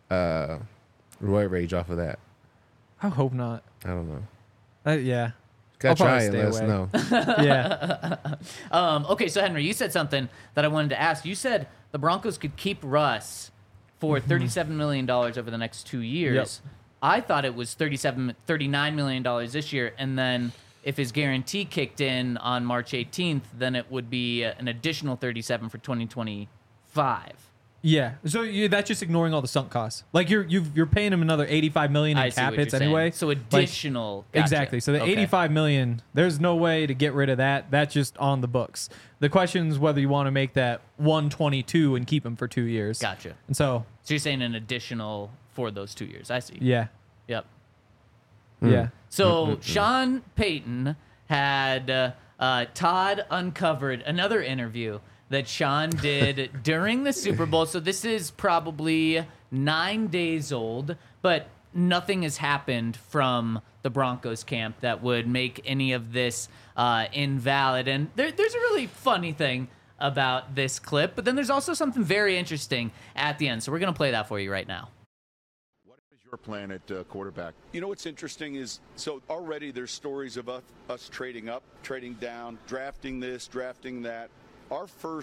roid rage off of that. I hope not. I don't know. Yeah. Gotta I'll try probably it. stay Let us away. know. Yeah. Okay, so Henry, you said something that I wanted to ask. You said the Broncos could keep Russ for $37 million over the next 2 years. Yep. I thought it was $39 million this year, and then if his guarantee kicked in on March 18th, then it would be an additional 37 for 2025. Yeah. So that's just ignoring all the sunk costs. Like you're paying him another $85 million in I see cap what hits you're saying. anyway. So Like, additional. Gotcha. Exactly. So the Okay. $85 million, there's no way to get rid of that. That's just on the books. The question is whether you want to make that 122 and keep him for 2 years. Gotcha. And so, So you're saying an additional for those 2 years. I see. yeah. Yep. Yeah. So Sean Payton had Todd uncovered another interview that Sean did during the Super Bowl. So this is probably 9 days old, but nothing has happened from the Broncos camp that would make any of this invalid. And there's a really funny thing about this clip, but then there's also something very interesting at the end. So we're going to play that for you right now. What is your plan at quarterback? You know what's interesting is, so already there's stories of us trading up, trading down, drafting this, drafting that. Our first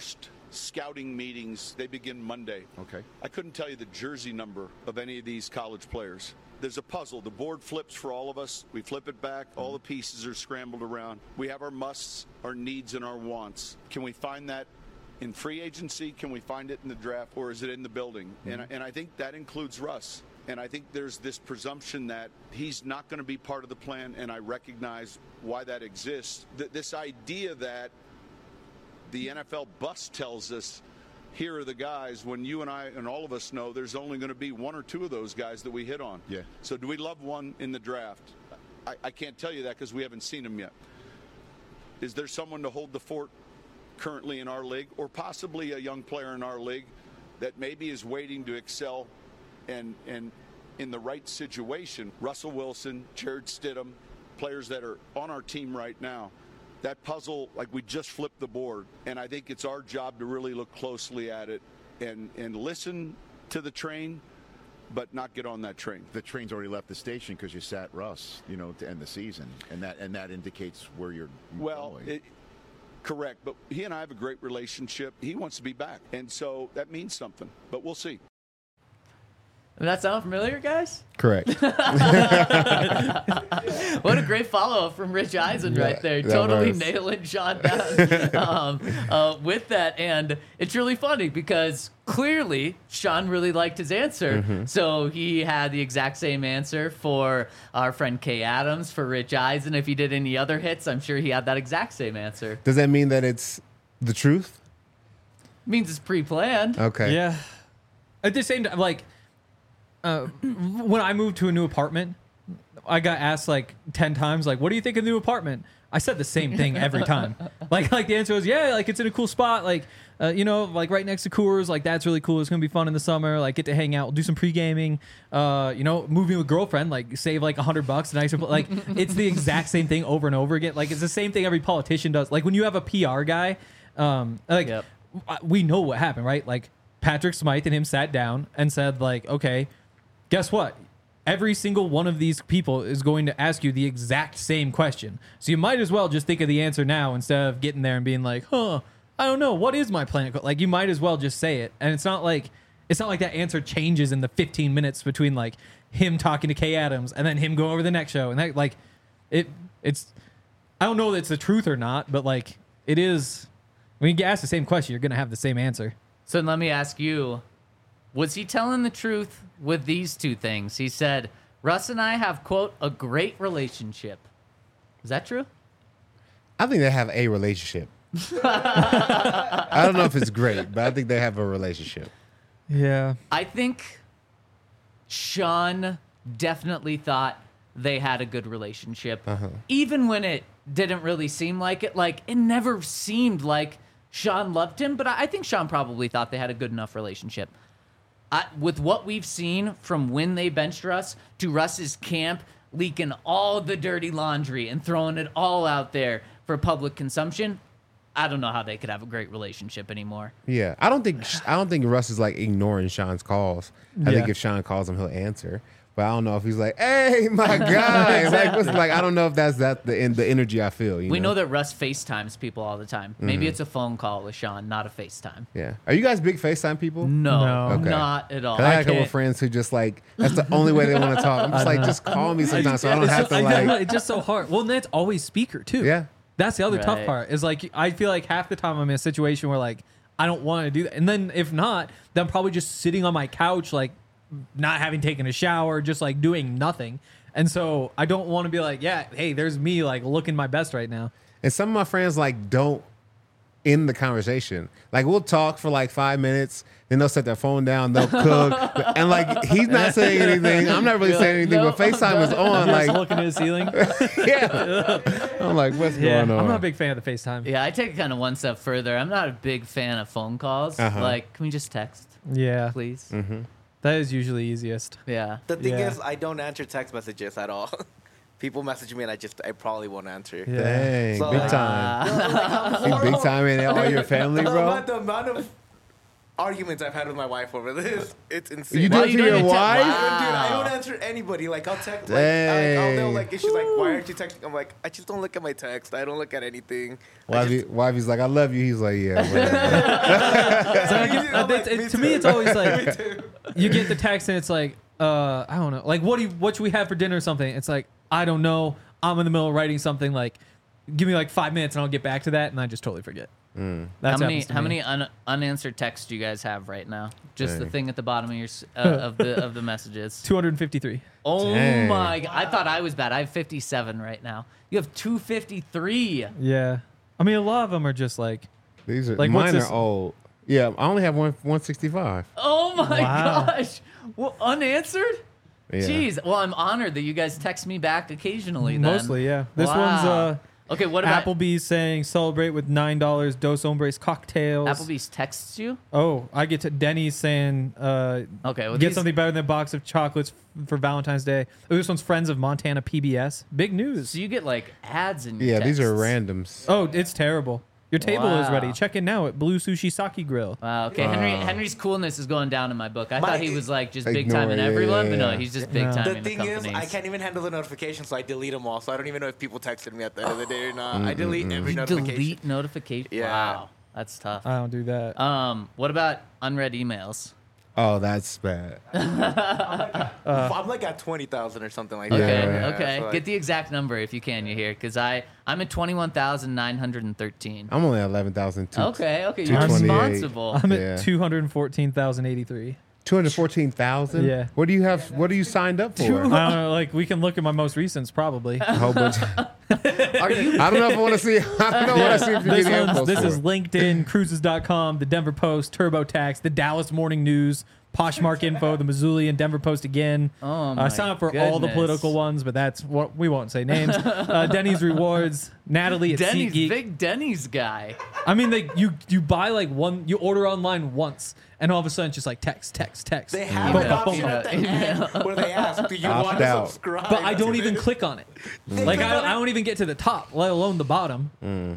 scouting meetings, they begin Monday. Okay. I couldn't tell you the jersey number of any of these college players. There's a puzzle. The board flips for all of us. We flip it back. All the pieces are scrambled around. We have our musts, our needs, and our wants. Can we find that in free agency? Can we find it in the draft? Or is it in the building? And I think that includes Russ. And I think there's this presumption that he's not going to be part of the plan, and I recognize why that exists. This idea that the NFL bus tells us, here are the guys, when you and I and all of us know there's only going to be one or two of those guys that we hit on. Yeah. So do we love one in the draft? I can't tell you that because we haven't seen him yet. Is there someone to hold the fort currently in our league, or possibly a young player in our league that maybe is waiting to excel and in the right situation? Russell Wilson, Jared Stidham, players that are on our team right now. That puzzle, like, we just flipped the board, and I think it's our job to really look closely at it and listen to the train, but not get on that train. The train's already left the station because you sat Russ, to end the season, and that indicates where you're going. Correct, but he and I have a great relationship. He wants to be back, and so that means something, but we'll see. Does that sound familiar, guys? Correct. What a great follow-up from Rich Eisen right there. that Totally was. nailing Sean down with that. And it's really funny because clearly Sean really liked his answer. Mm-hmm. So he had the exact same answer for our friend Kay Adams, for Rich Eisen. If he did any other hits, I'm sure he had that exact same answer. Does that mean that it's the truth? Means it's pre-planned. Okay. Yeah. At the same time, like, when I moved to a new apartment, I got asked like 10 times, like, what do you think of the new apartment? I said the same thing every time. like the answer was, yeah, like, it's in a cool spot. Like, like right next to Coors, like, that's really cool. It's going to be fun in the summer. Like, get to hang out, we'll do some pre-gaming, moving with girlfriend, like, save like $100 nice. Like, it's the exact same thing over and over again. Like, it's the same thing every politician does. Like, when you have a PR guy, Yep. we know what happened, right? Like, Patrick Smythe and him sat down and said, like, okay, guess what? Every single one of these people is going to ask you the exact same question. So you might as well just think of the answer now instead of getting there and being like, I don't know. What is my plan? Like, you might as well just say it. And it's not like that answer changes in the 15 minutes between like him talking to Kay Adams and then him going over the next show. And that, like, it's, I don't know that it's the truth or not, but like, it is, when you get asked the same question, you're going to have the same answer. So let me ask you, was he telling the truth with these two things? He said, Russ and I have, quote, a great relationship. Is that true? I think they have a relationship. I don't know if it's great, but I think they have a relationship. Yeah. I think Sean definitely thought they had a good relationship. Even when it didn't really seem like it. Like, it never seemed like Sean loved him, but I think Sean probably thought they had a good enough relationship. With what we've seen from when they benched Russ to Russ's camp leaking all the dirty laundry and throwing it all out there for public consumption, I don't know how they could have a great relationship anymore. Yeah, I don't think Russ is like ignoring Sean's calls. I think Yeah. if Sean calls him, he'll answer. But I don't know if he's like, "Hey, my guy," like I don't know if that's the energy I feel. We know that Russ FaceTimes people all the time. Maybe it's a phone call with Sean, not a FaceTime. Yeah. Are you guys big FaceTime people? No, Okay. not at all. 'Cause I got a couple can't. of friends who just like that's the only way they want to talk. I'm just like, just call me sometimes so I don't have to like. It's just so hard. Well, and that's always speaker too. Yeah. That's the other tough Right. part. Is like, I feel like half the time I'm in a situation where like I don't want to do that, and then if not, then I'm probably just sitting on my couch like not having taken a shower, just like doing nothing. And so I don't want to be like, yeah, hey, there's me like looking my best right now. And some of my friends like don't end the conversation. Like we'll talk for like 5 minutes, then they'll set their phone down, they'll cook, and like he's not saying anything. I'm not really saying anything, but FaceTime is on. Just Like, looking at the ceiling. yeah, I'm like, what's Yeah, going on? I'm not a big fan of the FaceTime. Yeah, I take it kind of one step further. I'm not a big fan of phone calls. Like, can we just text, Yeah, please? that is usually easiest. Yeah. The thing Yeah. is, I don't answer text messages at all. People message me and I probably won't answer. Yeah. Dang, So, big like, time. I'm You big time in all your family, the bro. amount of arguments I've had with my wife over this. It's insane. You do it to your wife? Dude, I don't answer anybody. Like, I'll text. Like, I'll like, she's like, why aren't you texting? I'm like, I just don't look at my text. I don't look at anything. Wifey's like, I love you. He's like, yeah. To me, it's always like you get the text and it's like, I don't know, like what should we have for dinner or something? It's like, I don't know. I'm in the middle of writing something. Like, give me like 5 minutes and I'll get back to that, and I just totally forget. How many unanswered texts do you guys have right now? Just the thing at the bottom of your of the messages. 253. Oh Dang. my God! I thought I was bad. I have 57 right now. You have 253. Yeah, I mean, a lot of them are just like, These are Like, what's mine are this- old. Yeah, I only have 165. Oh my Wow. gosh! Well, unanswered. Yeah. Jeez. Well, I'm honored that you guys text me back occasionally. Then. mostly, yeah. This Wow. one's Okay, what about Applebee's saying celebrate with $9 Dos Hombres cocktails. Applebee's texts you? Oh, I get to Denny's saying Okay, well, get these- something better than a box of chocolates for Valentine's Day. Oh, this one's Friends of Montana PBS. Big news. So you get like ads in your Yeah, these are texts. randoms. Oh, it's terrible. Your table is Wow. ready. Check in now at Blue Sushi Sake Grill. Wow. Okay, Henry's coolness is going down in my book. I My- thought he was like just big Ignore time in it, everyone, yeah, but no, yeah. he's just big time The in thing the is, companies. I can't even handle the notifications, so I delete them all. So I don't even know if people texted me at the end of the day or not. I delete every notification. Delete notification. Yeah. Wow, that's tough. I don't do that. What about unread emails? Oh, that's bad. I'm like at 20,000 or something like Okay, that. Yeah. okay. So, like, Get the exact number if you can. You hear? Because I'm at 21,913. I'm only at 11,000. Okay, you're 228. responsible. I'm yeah. at 214,083. 214,000. Yeah. What do you have? What are you signed up for? I don't know. Like, we can look at my most recents probably. A whole bunch. Are you? I don't know if I want to see. I don't know what I see if you're This, getting one's, info this for. is LinkedIn, Cruises.com, the Denver Post, TurboTax, the Dallas Morning News, Poshmark Info, the Missouli and Denver Post again. Oh my I sign up for all the goodness. political ones, but that's what we won't say names. Denny's Rewards, Natalie at Denny's, SeatGeek. big Denny's guy. I mean, you buy like one, you order online once, and all of a sudden it's just like text. They have Boom, an boom, option boom. at the end where they ask, do you Opt want to out. subscribe? But I don't to even this? click on it. They Like click on I it? don't even get to the top, let alone the bottom.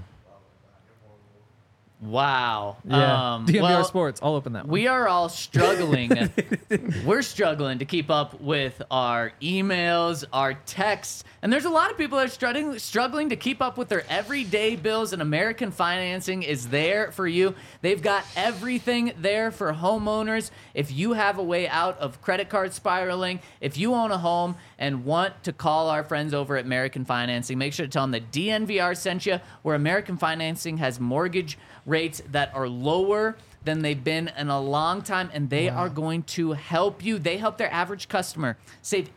Wow. Yeah, DNVR well, Sports. I'll open that one. We are all struggling. We're struggling to keep up with our emails, our texts, and there's a lot of people that are struggling to keep up with their everyday bills. And American Financing is there for you. They've got everything there for homeowners. If you have a way out of credit card spiraling, if you own a home and want to call our friends over at American Financing, make sure to tell them that DNVR sent you, where American Financing has mortgage rates that are lower than they've been in a long time, and they are going to help you. They help their average customer save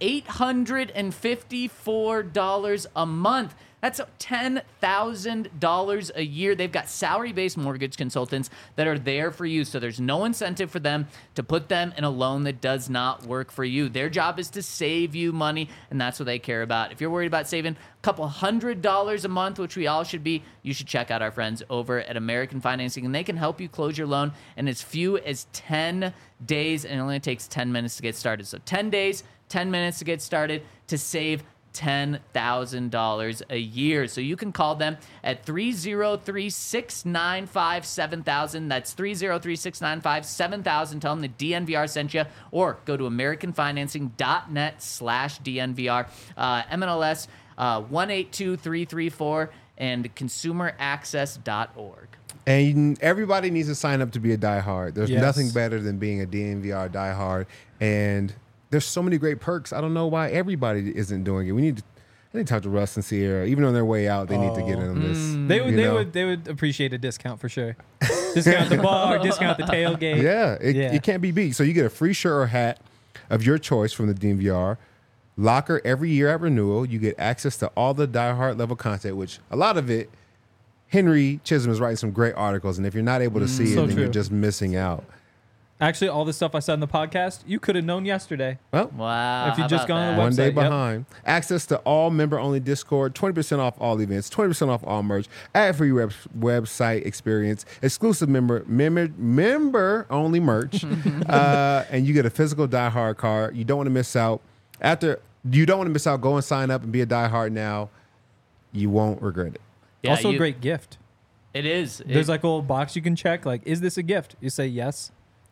$854 a month. That's $10,000 a year. They've got salary-based mortgage consultants that are there for you, so there's no incentive for them to put them in a loan that does not work for you. Their job is to save you money, and that's what they care about. If you're worried about saving a couple $100 a month, which we all should be, you should check out our friends over at American Financing, and they can help you close your loan in as few as 10 days, and it only takes 10 minutes to get started. So 10 days, 10 minutes to get started to save $10,000 a year. So you can call them at 303-695-7000. That's 303-695-7000. Tell them the DNVR sent you, or go to americanfinancing.net/DNVR. MLS 182334 and consumeraccess.org. And everybody needs to sign up to be a diehard. There's Yes. nothing better than being a DNVR diehard. And there's so many great perks. I don't know why everybody isn't doing it. I need to talk to Russ and Sierra. Even on their way out, they need to get in on this. They would appreciate a discount for sure. Discount the bar, discount the tailgate. Yeah, it can't be beat. So you get a free shirt or hat of your choice from the DNVR locker every year at renewal. You get access to all the diehard level content, which a lot of it, Henry Chisholm is writing some great articles. And if you're not able to see So it, then true. you're just missing out. Actually, all the stuff I said in the podcast, you could have known yesterday. Well, Wow. If you how just about gone on that? the one day website, yep. behind. Access to all member-only Discord, 20% off all events, 20% off all merch, ad-free website experience, exclusive member-only merch, and you get a physical diehard card. You don't want to miss out. Go and sign up and be a diehard now. You won't regret it. Yeah, Also, a great gift. It is. There's like a little box you can check. Like, is this a gift? You say yes.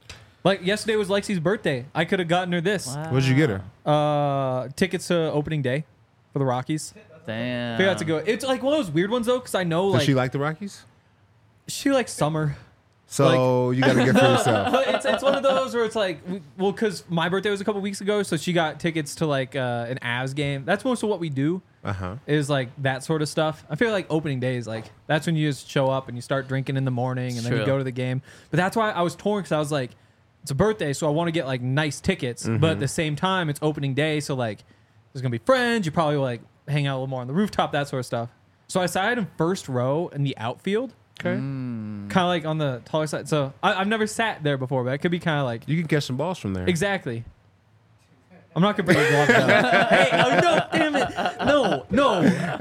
Like yesterday was Lexi's birthday. I could have gotten her this. What'd you get her? Tickets to opening day for the Rockies. Damn. Figure out to go. It's like one of those weird ones though, because I know Does like she like the Rockies? she likes summer. So you got to get for yourself. But it's one of those where it's like, well, because my birthday was a couple weeks ago, so she got tickets to like an Avs game. That's most of what we do. Is like that sort of stuff. I feel like opening day is like that's when you just show up and you start drinking in the morning and then you True. go to the game. But that's why I was torn because I was like, it's a birthday, so I want to get like nice tickets. But at the same time, it's opening day, so like there's gonna be friends. You probably like hang out a little more on the rooftop, that sort of stuff. So I sat in first row in the outfield. Okay. Kind of like on the taller side. So I've never sat there before, but it could be kind of like You can catch some balls from there. exactly. I'm not gonna bring a glove down. Hey, oh no, damn it! No.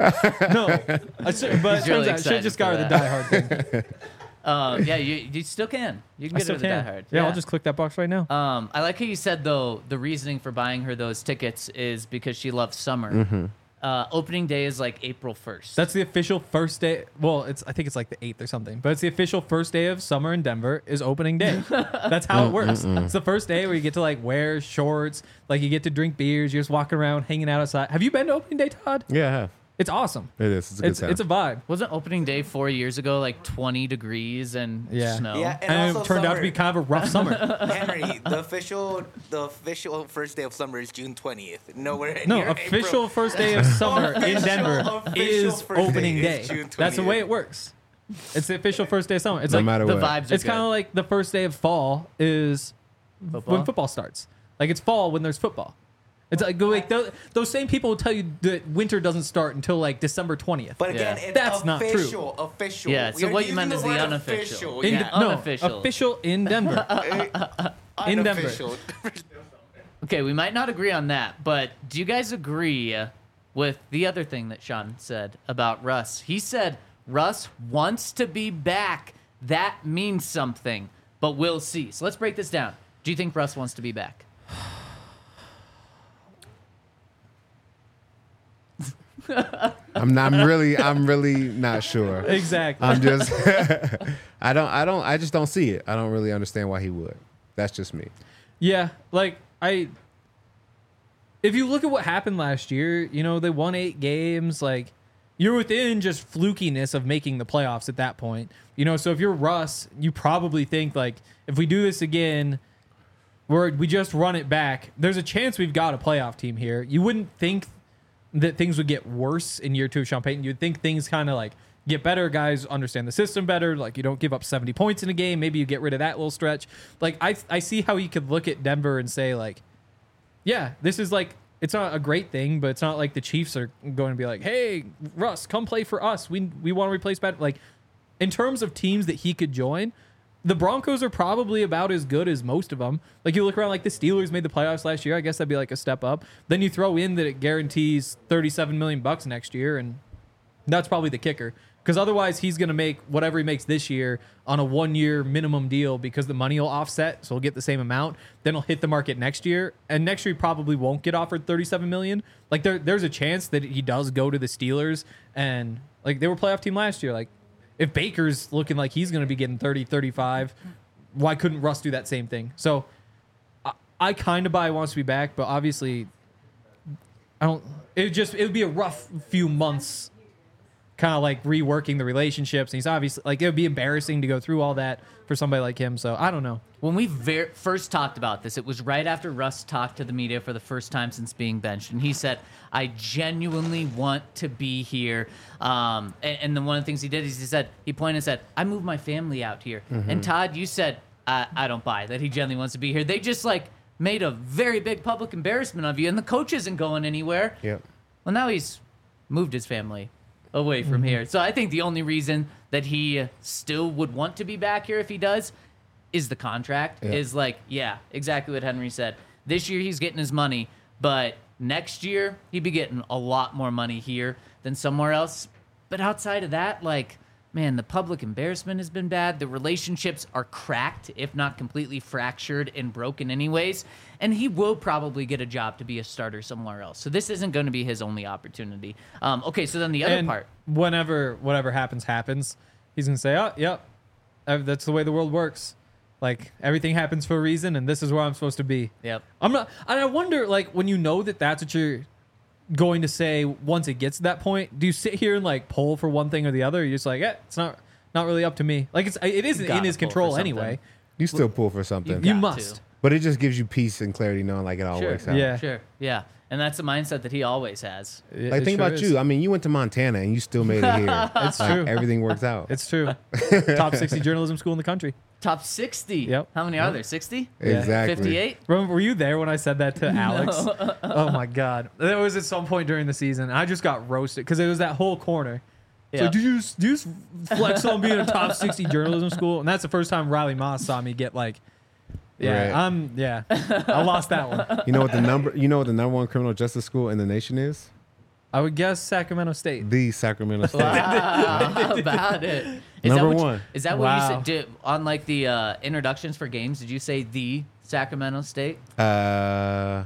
I should, but it He's really turns out I should excited just for got her the that. Die Hard thing. Yeah, you still can. You can I get still her the Die can. Hard. Yeah, I'll just click that box right now. I like how you said though the reasoning for buying her those tickets is because she loves summer. Opening day is like April 1st. That's the official first day. Well, I think it's like the 8th or something, but it's the official first day of summer in Denver is opening day. That's how it works. It's the first day where you get to like wear shorts, like you get to drink beers, you're just walking around, hanging out outside. Have you been to opening day, Todd? Yeah, I have. It's awesome. It is. It's a good time. It's a vibe. Wasn't opening day 4 years ago like 20 degrees and Yeah. snow? Yeah, And also it turned out to summer. be kind of a rough summer. Henry, the official first day of summer is June 20th. Nowhere No, near official April. first day of summer in Official- Denver official is first opening day day. is June That's the way 20th. it works. It's the official first day of summer. It's No like matter The what. vibes are it's kind of like the first day of fall is when football starts. Like it's fall when there's football. It's like those same people will tell you that winter doesn't start until like December 20th. But again, Yeah. it's That's not true. Official. Yeah, so You're what you using meant is the word unofficial. official. In Yeah, no, unofficial. official in Denver. In Denver. Unofficial. Okay, we might not agree on that, but do you guys agree with the other thing that Sean said about Russ? He said Russ wants to be back. That means something, but we'll see. So let's break this down. Do you think Russ wants to be back? I'm really not sure. Exactly. I'm just I just don't see it. I don't really understand why he would. That's just me. Yeah, like if you look at what happened last year, you know, they won 8 games, like you're within just flukiness of making the playoffs at that point. You know, so if you're Russ, you probably think like if we do this again, we just run it back, there's a chance we've got a playoff team here. You wouldn't think that things would get worse in year 2 of Sean Payton. You'd think things kind of like get better. Guys understand the system better. Like you don't give up 70 points in a game. Maybe you get rid of that little stretch. Like I see how you could look at Denver and say like, yeah, this is like, it's not a great thing, but it's not like the Chiefs are going to be like, hey, Russ, come play for us. We want to replace bad. Like in terms of teams that he could join, the Broncos are probably about as good as most of them. Like you look around, like the Steelers made the playoffs last year. I guess that'd be like a step up. Then you throw in that it guarantees $37 million next year, and that's probably the kicker. Because otherwise, he's going to make whatever he makes this year on a 1-year minimum deal because the money will offset, so he'll get the same amount. Then he'll hit the market next year, and next year he probably won't get offered $37 million. Like there's a chance that he does go to the Steelers, and like they were a playoff team last year. Like if Baker's looking like he's going to be getting 30, 35, why couldn't Russ do that same thing? So I kind of buy he wants to be back, but obviously I don't. It would be a rough few months. Kind of like reworking the relationships. And he's obviously like, it would be embarrassing to go through all that for somebody like him. So I don't know. When we first talked about this, it was right after Russ talked to the media for the first time since being benched. And he said, I genuinely want to be here. And then one of the things he did is he pointed and said, I moved my family out here. And Todd, you said, I don't buy that he genuinely wants to be here. They just like made a very big public embarrassment of you. And the coach isn't going anywhere. Yep. Well, now he's moved his family away from here. So I think the only reason that he still would want to be back here if he does is the contract. Yeah. Is like, yeah, exactly what Henry said. This year he's getting his money, but next year he'd be getting a lot more money here than somewhere else. But outside of that, like, man, the public embarrassment has been bad. The relationships are cracked, if not completely fractured and broken anyways. And he will probably get a job to be a starter somewhere else. So this isn't going to be his only opportunity. Okay, so then the other And part. whatever happens, he's going to say, oh, yep, that's the way the world works. Like everything happens for a reason, and this is where I'm supposed to be. Yep. I'm not, and I wonder, like, when you know that that's what you're going to say once it gets to that point, do you sit here and like pull for one thing or the other? Or you're just like, it's not really up to me. Like it isn't in his control anyway. You still pull for something. You got must. to. But it just gives you peace and clarity knowing like it all works out. Yeah. Sure. Yeah. And that's the mindset that he always has. Like think about you. I mean, you went to Montana and you still made it here. It's Like, true. Everything works out. It's true. Top 60 journalism school in the country. Top 60. Yep. How many are there? 60? Exactly. 58? Were you there when I said that to Alex? Oh my God. There was at some point during the season. I just got roasted because it was that whole corner. So Yeah. do you just flex on being a top 60 journalism school? And that's the first time Riley Moss saw me get like, Right. I lost that one. You know what the number one criminal justice school in the nation is? I would guess Sacramento State. The Sacramento State. How about it? Number that what one. You, is that what you Wow. said? On like the introductions for games, did you say the Sacramento State? I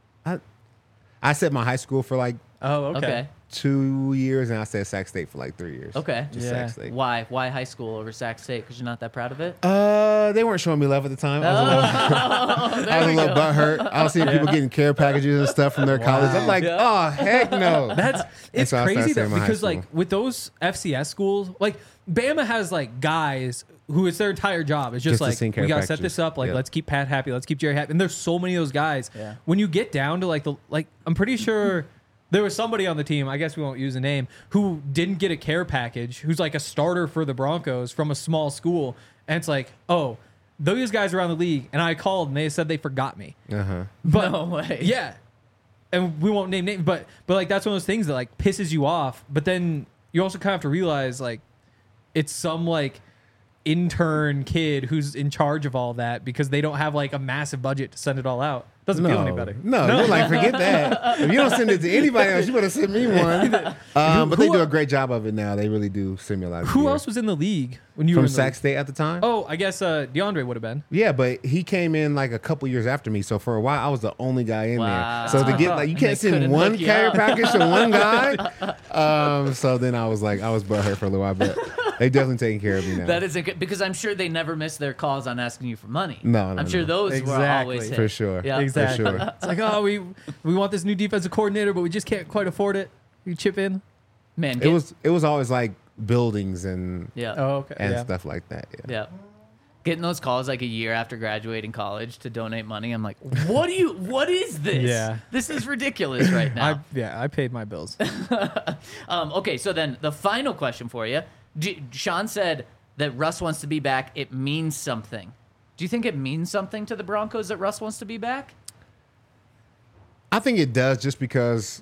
said my high school for like Oh, okay. Okay. 2 years, and I said Sac State for like 3 years. Okay. Just Yeah. Sac State. Why high school over Sac State? Because you're not that proud of it? They weren't showing me love at the time. I was a little butthurt. I was seeing people getting care packages and stuff from their college. I'm like, oh heck no. It's so I started crazy though, saying my high because like school. with those FCS schools, like Bama has like guys who it's their entire job. It's just Just to like sing care we gotta set packages. this up. Like Yeah. let's keep Pat happy. Let's keep Jerry happy. And there's so many of those guys. Yeah. When you get down to like I'm pretty sure there was somebody on the team, I guess we won't use a name, who didn't get a care package, who's like a starter for the Broncos from a small school. And it's like, oh, those guys are around the league. And I called and they said they forgot me. Uh-huh. But No way. yeah. And we won't name names, but like that's one of those things that like pisses you off. But then you also kind of have to realize like it's some like intern kid who's in charge of all that because they don't have like a massive budget to send it all out. Doesn't feel any better. No, you're like, forget that. If you don't send it to anybody else, you better send me one. But they do a great job of it now. They really do simulate. Who else was in the league when you were from in the Sac league? State at the time? Oh, I guess DeAndre would have been. Yeah, but he came in like a couple years after me. So for a while, I was the only guy in Wow. there. So to get like, you And can't they send couldn't one hook you carrier up. package to one guy. So then I was butthurt for a little while, but they definitely taking care of me now. That isn't good because I'm sure they never miss their calls on asking you for money. No, I'm sure no. those were Exactly. always hit. For sure. Yeah. Exactly. For sure. It's like, oh, we want this new defensive coordinator, but we just can't quite afford it. You chip in. Man, It was always like buildings and yeah. Oh, okay. and stuff like that. Yeah. Yeah. Getting those calls like a year after graduating college to donate money, I'm like, what is this? Yeah. This is ridiculous right now. I paid my bills. Okay, so then the final question for you. Sean said that Russ wants to be back. It means something. Do you think it means something to the Broncos that Russ wants to be back? I think it does just because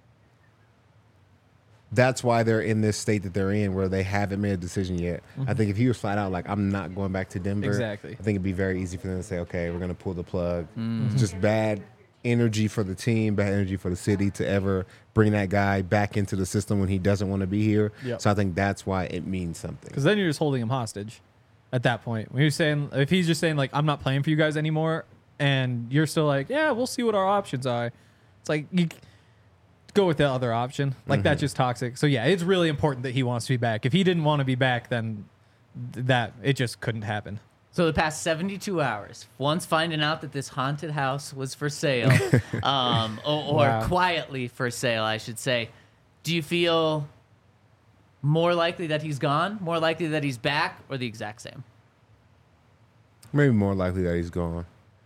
that's why they're in this state that they're in where they haven't made a decision yet. I think if he was flat out like, I'm not going back to Denver, Exactly. I think it'd be very easy for them to say, okay, we're going to pull the plug. It's just bad energy for the team, bad energy for the city to ever bring that guy back into the system when he doesn't want to be here. Yep. So I think that's why it means something. Because then you're just holding him hostage at that point. When you're saying, if he's just saying, like, I'm not playing for you guys anymore, and you're still like, yeah, we'll see what our options are. It's like, you go with the other option. Like, that's just toxic. So, yeah, it's really important that he wants to be back. If he didn't want to be back, then it just couldn't happen. So the past 72 hours, once finding out that this haunted house was for sale, or Wow. quietly for sale, I should say, do you feel more likely that he's gone, more likely that he's back, or the exact same? Maybe more likely that he's gone.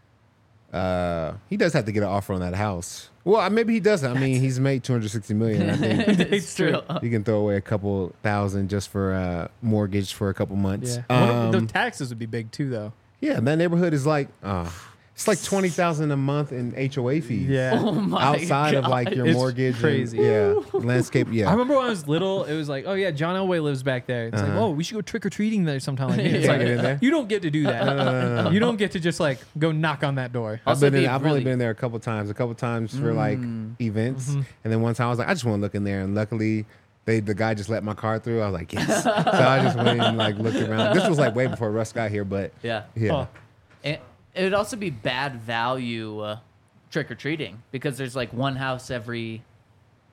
He does have to get an offer on that house. Well, maybe he doesn't. I mean, he's made $260 million. I think It's true. you can throw away a couple thousand just for mortgage for a couple months. Yeah. The taxes would be big, too, though. Yeah, that neighborhood is like it's like $20,000 a month in HOA fees. Yeah. Oh my outside of God. like your It's mortgage. crazy. And, yeah, landscape. Yeah, I remember when I was little, it was like, oh yeah, John Elway lives back there. It's like, oh, we should go trick or treating there sometime. Like, it's Yeah. like, Get in there? you don't get to do that. No. You don't get to just like go knock on that door. I've Also been. be I've really- only been there a couple times for like events, and then one time I was like, I just want to look in there, and luckily. The guy just let my car through. I was like, yes. So I just went and like looked around. This was like way before Russ got here, but Yeah. Oh. And it would also be bad value trick or treating because there's like one house every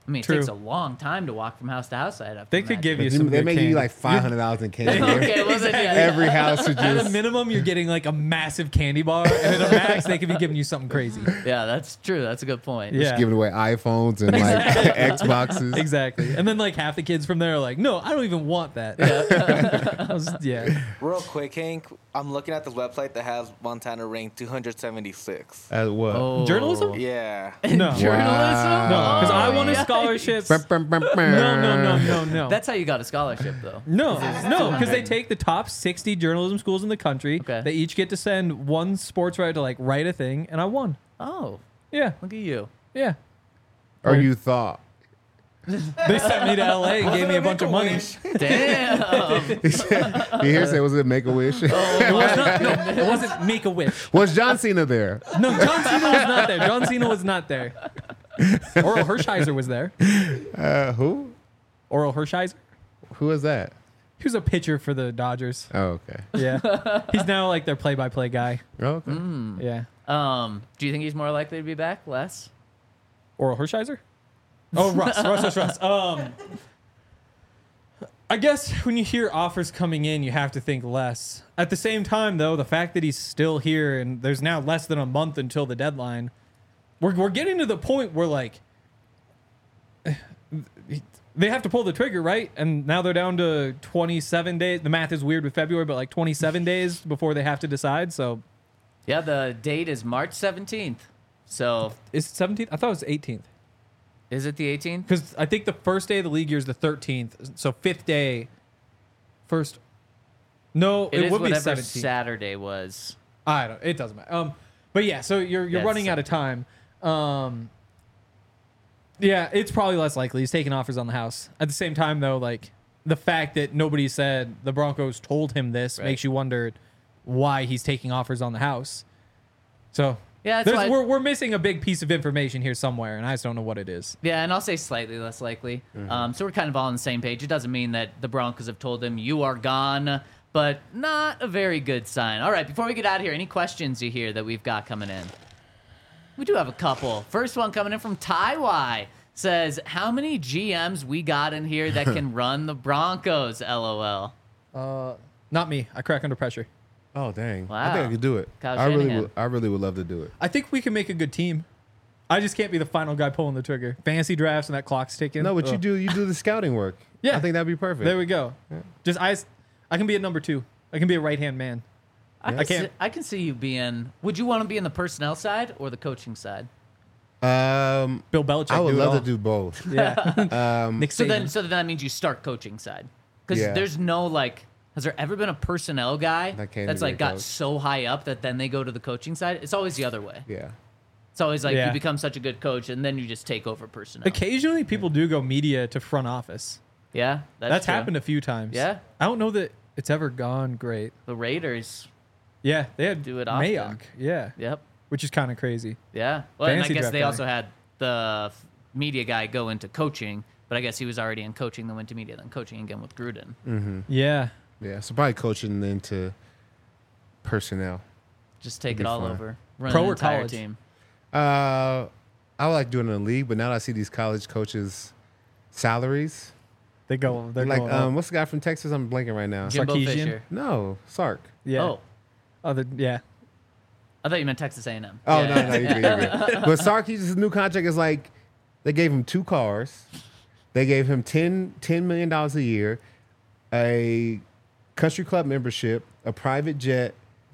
I mean, it True. takes a long time to walk from house to house. I'd have to They could give imagine. you some They good make candy. you like $500 in candy. Okay, well then, yeah. Every house would At a just. minimum, you're getting like a massive candy bar, and at a max, they could be giving you something crazy. Yeah, that's true. That's a good point. Yeah. Giving away iPhones and like Xboxes. Exactly. And then like half the kids from there are like, no, I don't even want that. Yeah. Real quick, Hank, I'm looking at this website that has Montana ranked 276. What? Oh. Journalism? Yeah. No. Journalism? No, because I Oh, wanted yeah. scholarships. No, No. That's how you got a scholarship, though. No, because they take the top 60 journalism schools in the country. Okay. They each get to send one sports writer to like write a thing, and I won. Oh, Yeah, look at you. yeah. Or you thought. They sent me to LA and gave me a bunch of money. Damn. You hear say, was it Make-A-Wish? It was not. No, it wasn't Make a Wish. Was John Cena there? No, John Cena was not there. John Cena was not there. Oral Hershiser was there. Who? Oral Hershiser. Who is that? He was a pitcher for the Dodgers. Oh, okay. Yeah, he's now like their play-by-play guy. Oh, okay. Yeah. Do you think he's more likely to be back? Less? Oral Hershiser? Oh, Russ. I guess when you hear offers coming in, you have to think less. At the same time, though, the fact that he's still here and there's now less than a month until the deadline, we're getting to the point where, like, they have to pull the trigger, right? And now they're down to 27 days. The math is weird with February, but like 27 days before they have to decide. So Yeah, the date is March 17th. So is it 17th? I thought it was 18th. is it the 18th? Because I think the first day of the league year is the 13th. So fifth day, first. No, It it is would be whatever 17th. Saturday was. I don't. It doesn't matter. But yeah. So you're Yeah, it's running out of time. Yeah, it's probably less likely. He's taking offers on the house. At the same time, though, like the fact that nobody said the Broncos told him this Right. makes you wonder why he's taking offers on the house. So Yeah, that's why. we're missing a big piece of information here somewhere, and I just don't know what it is. Yeah, and I'll say slightly less likely. So we're kind of all on the same page. It doesn't mean that the Broncos have told him you are gone, but not a very good sign. All right, before we get out of here, any questions you hear that we've got coming in? We do have a couple. First one coming in from Taiwai says, how many GMs we got in here that can run the Broncos? LOL. Not me. I crack under pressure. Oh, dang. I Wow. think I could do it. Kyle I really Shanahan. would. I really would love to do it. I think we can make a good team. I just can't be the final guy pulling the trigger. Fantasy drafts and that clock's ticking. No, but Ugh. you do the scouting work. Yeah. I think that'd be perfect. There we go. Just I can be a number 2. I can be a right-hand man. I can't- can see you being. Would you want to be in the personnel side or the coaching side? Bill Belichick. I would do it love all. to do both. Yeah. Nick So Saban. then that means you start coaching side, because Yeah. there's no like. Has there ever been a personnel guy That can't that's be like a got coach. so high up that then they go to the coaching side? It's always the other way. Yeah. It's always like Yeah. you become such a good coach and then you just take over personnel. Occasionally, people do go media to front office. Yeah, That's true. happened a few times. Yeah. I don't know that it's ever gone great. The Raiders. Yeah, they had Do it often. Mayock. Yeah, Yep. which is kind of crazy. Yeah. Well, and I Fantasy guess draft they guy. also had the media guy go into coaching, but I guess he was already in coaching, then went to media, then coaching again with Gruden. Yeah. Yeah. So probably coaching into personnel. Just take It'd it be all fun. over. Run Pro an or entire college? team. I would like doing it in the league, but now that I see these college coaches' salaries, They're like going up. what's the guy from Texas? I'm blanking right now. Jimbo Sarkisian? Fisher. No, Sark. Yeah. Oh, Yeah. I thought you meant Texas A&M. Oh Yeah. no, you're good. But Sark, his new contract is like they gave him 2 cars, they gave him $10 million a year, a country club membership, a private jet,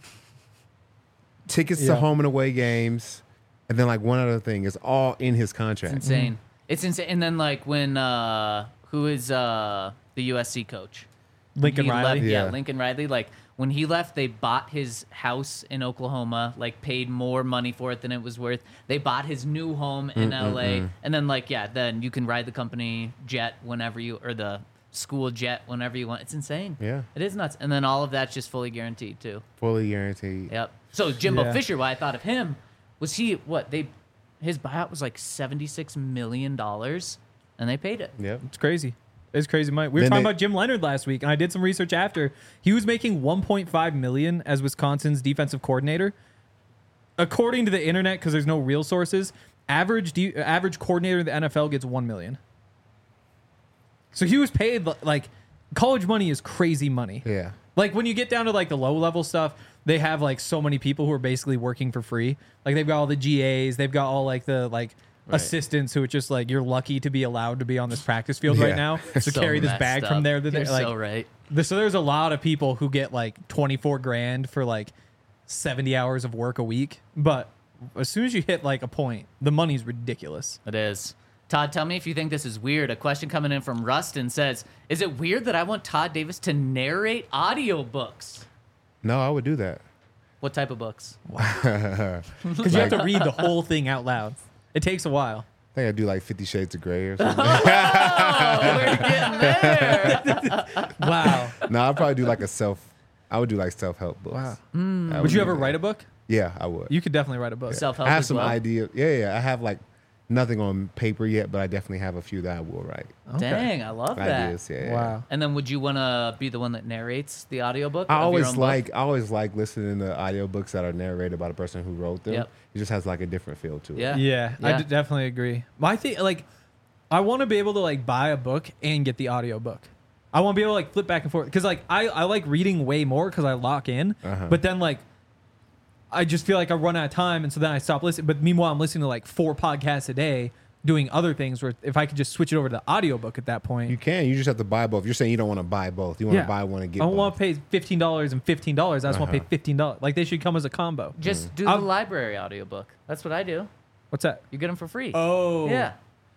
tickets to Yeah. home and away games, and then like one other thing. It's all in his It's contract. insane. It's insane. And then like when who is the USC coach? Lincoln He Riley. left- Yeah. Lincoln Riley. Like when he left, they bought his house in Oklahoma, like paid more money for it than it was worth. They bought his new home in LA. And then like, yeah, then you can ride the company jet whenever you, or the school jet whenever you want. It's insane. Yeah. It is nuts. And then all of that's just fully guaranteed too. Fully guaranteed. Yep. So Jimbo Yeah. Fisher, why I thought of him was his buyout was like $76 million and they paid it. Yep. It's crazy. It's crazy, Mike. We were Then talking they- about Jim Leonard last week, and I did some research after. He was making $1.5 million as Wisconsin's defensive coordinator. According to the internet, because there's no real sources, average coordinator in the NFL gets $1 million. So he was paid like college money is crazy money. Yeah. Like when you get down to like the low level stuff, they have like so many people who are basically working for free. Like they've got all the GAs, they've got all like the assistants who are just like, you're lucky to be allowed to be on this practice field right now. So carry this bag messed from up. there to there. You're Like, so right. so there's a lot of people who get like 24 grand for like 70 hours of work a week. But as soon as you hit like a point, the money's ridiculous. It is. Todd, tell me if you think this is weird. A question coming in from Rustin says, is it weird that I want Todd Davis to narrate audiobooks? No, I would do that. What type of books? Because you have to read the whole thing out loud. It takes a while. I think I'd do like 50 Shades of Grey or something. Oh, we're getting there. Wow. No, I'd probably do like I would do like self-help books. Wow. Would you ever write a book? Yeah, I would. You could definitely write a book. Self-help I have as some well? ideas. Yeah. I have like nothing on paper yet, but I definitely have a few that I will write. Dang, I love that. Ideas, yeah. Wow. And then would you want to be the one that narrates the audiobook? I of your always own book? I always like listening to audiobooks that are narrated by the person who wrote them. Yep. It just has like a different feel to it. Yeah. Yeah, I Yeah. definitely agree. But I think like I want to be able to like buy a book and get the audiobook. I want to be able to like flip back and forth because like I like reading way more because I lock in. But then like I just feel like I run out of time, and so then I stop listening. But meanwhile, I'm listening to like 4 podcasts a day doing other things. Where if I could just switch it over to the audiobook at that point, You can. You just have to buy both. You're saying you don't want to buy both. You want to buy one and get I don't both. want to pay $15 and $15. I just want to pay $15. Like they should come as a combo. Just do the library audiobook. That's what I do. What's that? You get them for free. Oh, Yeah.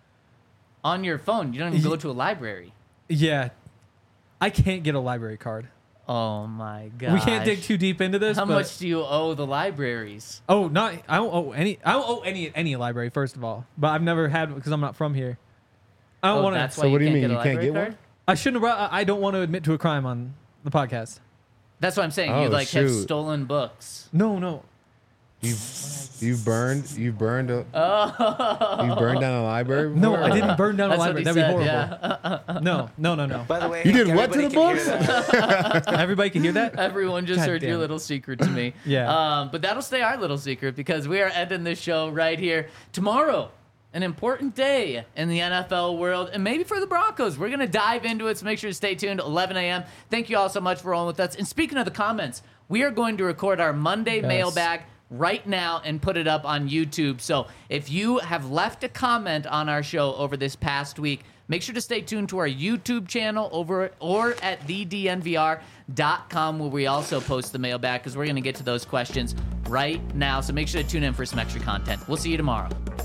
On your phone. You don't even go to a library. yeah. I can't get a library card. Oh my god. We can't dig too deep into this. How but- much do you owe the libraries? Oh, not I don't owe any library first of all, but I've never had because I'm not from here. I don't want That's to. why So what do you can't mean? get a You can't library get card? one? I shouldn't. I don't want to admit to a crime on the podcast. That's what I'm saying. Oh, You like have shoot. stolen books. No. You burned you burned down a library No, before? I didn't burn down a That's what library. he That'd be said, horrible. yeah. No. By the way, You did what to everybody the can hear books? that. Everybody can hear that. Everyone just God heard your damn it. little secret to me. Yeah. But that'll stay our little secret because we are ending this show right here. Tomorrow, an important day in the NFL world and maybe for the Broncos. We're going to dive into it, so make sure to stay tuned. 11 a.m. Thank you all so much for rolling with us. And speaking of the comments, we are going to record our Monday mailbag right now and put it up on YouTube. So if you have left a comment on our show over this past week, make sure to stay tuned to our YouTube channel over or at thednvr.com where we also post the mailbag because we're going to get to those questions right now. So make sure to tune in for some extra content. We'll see you tomorrow.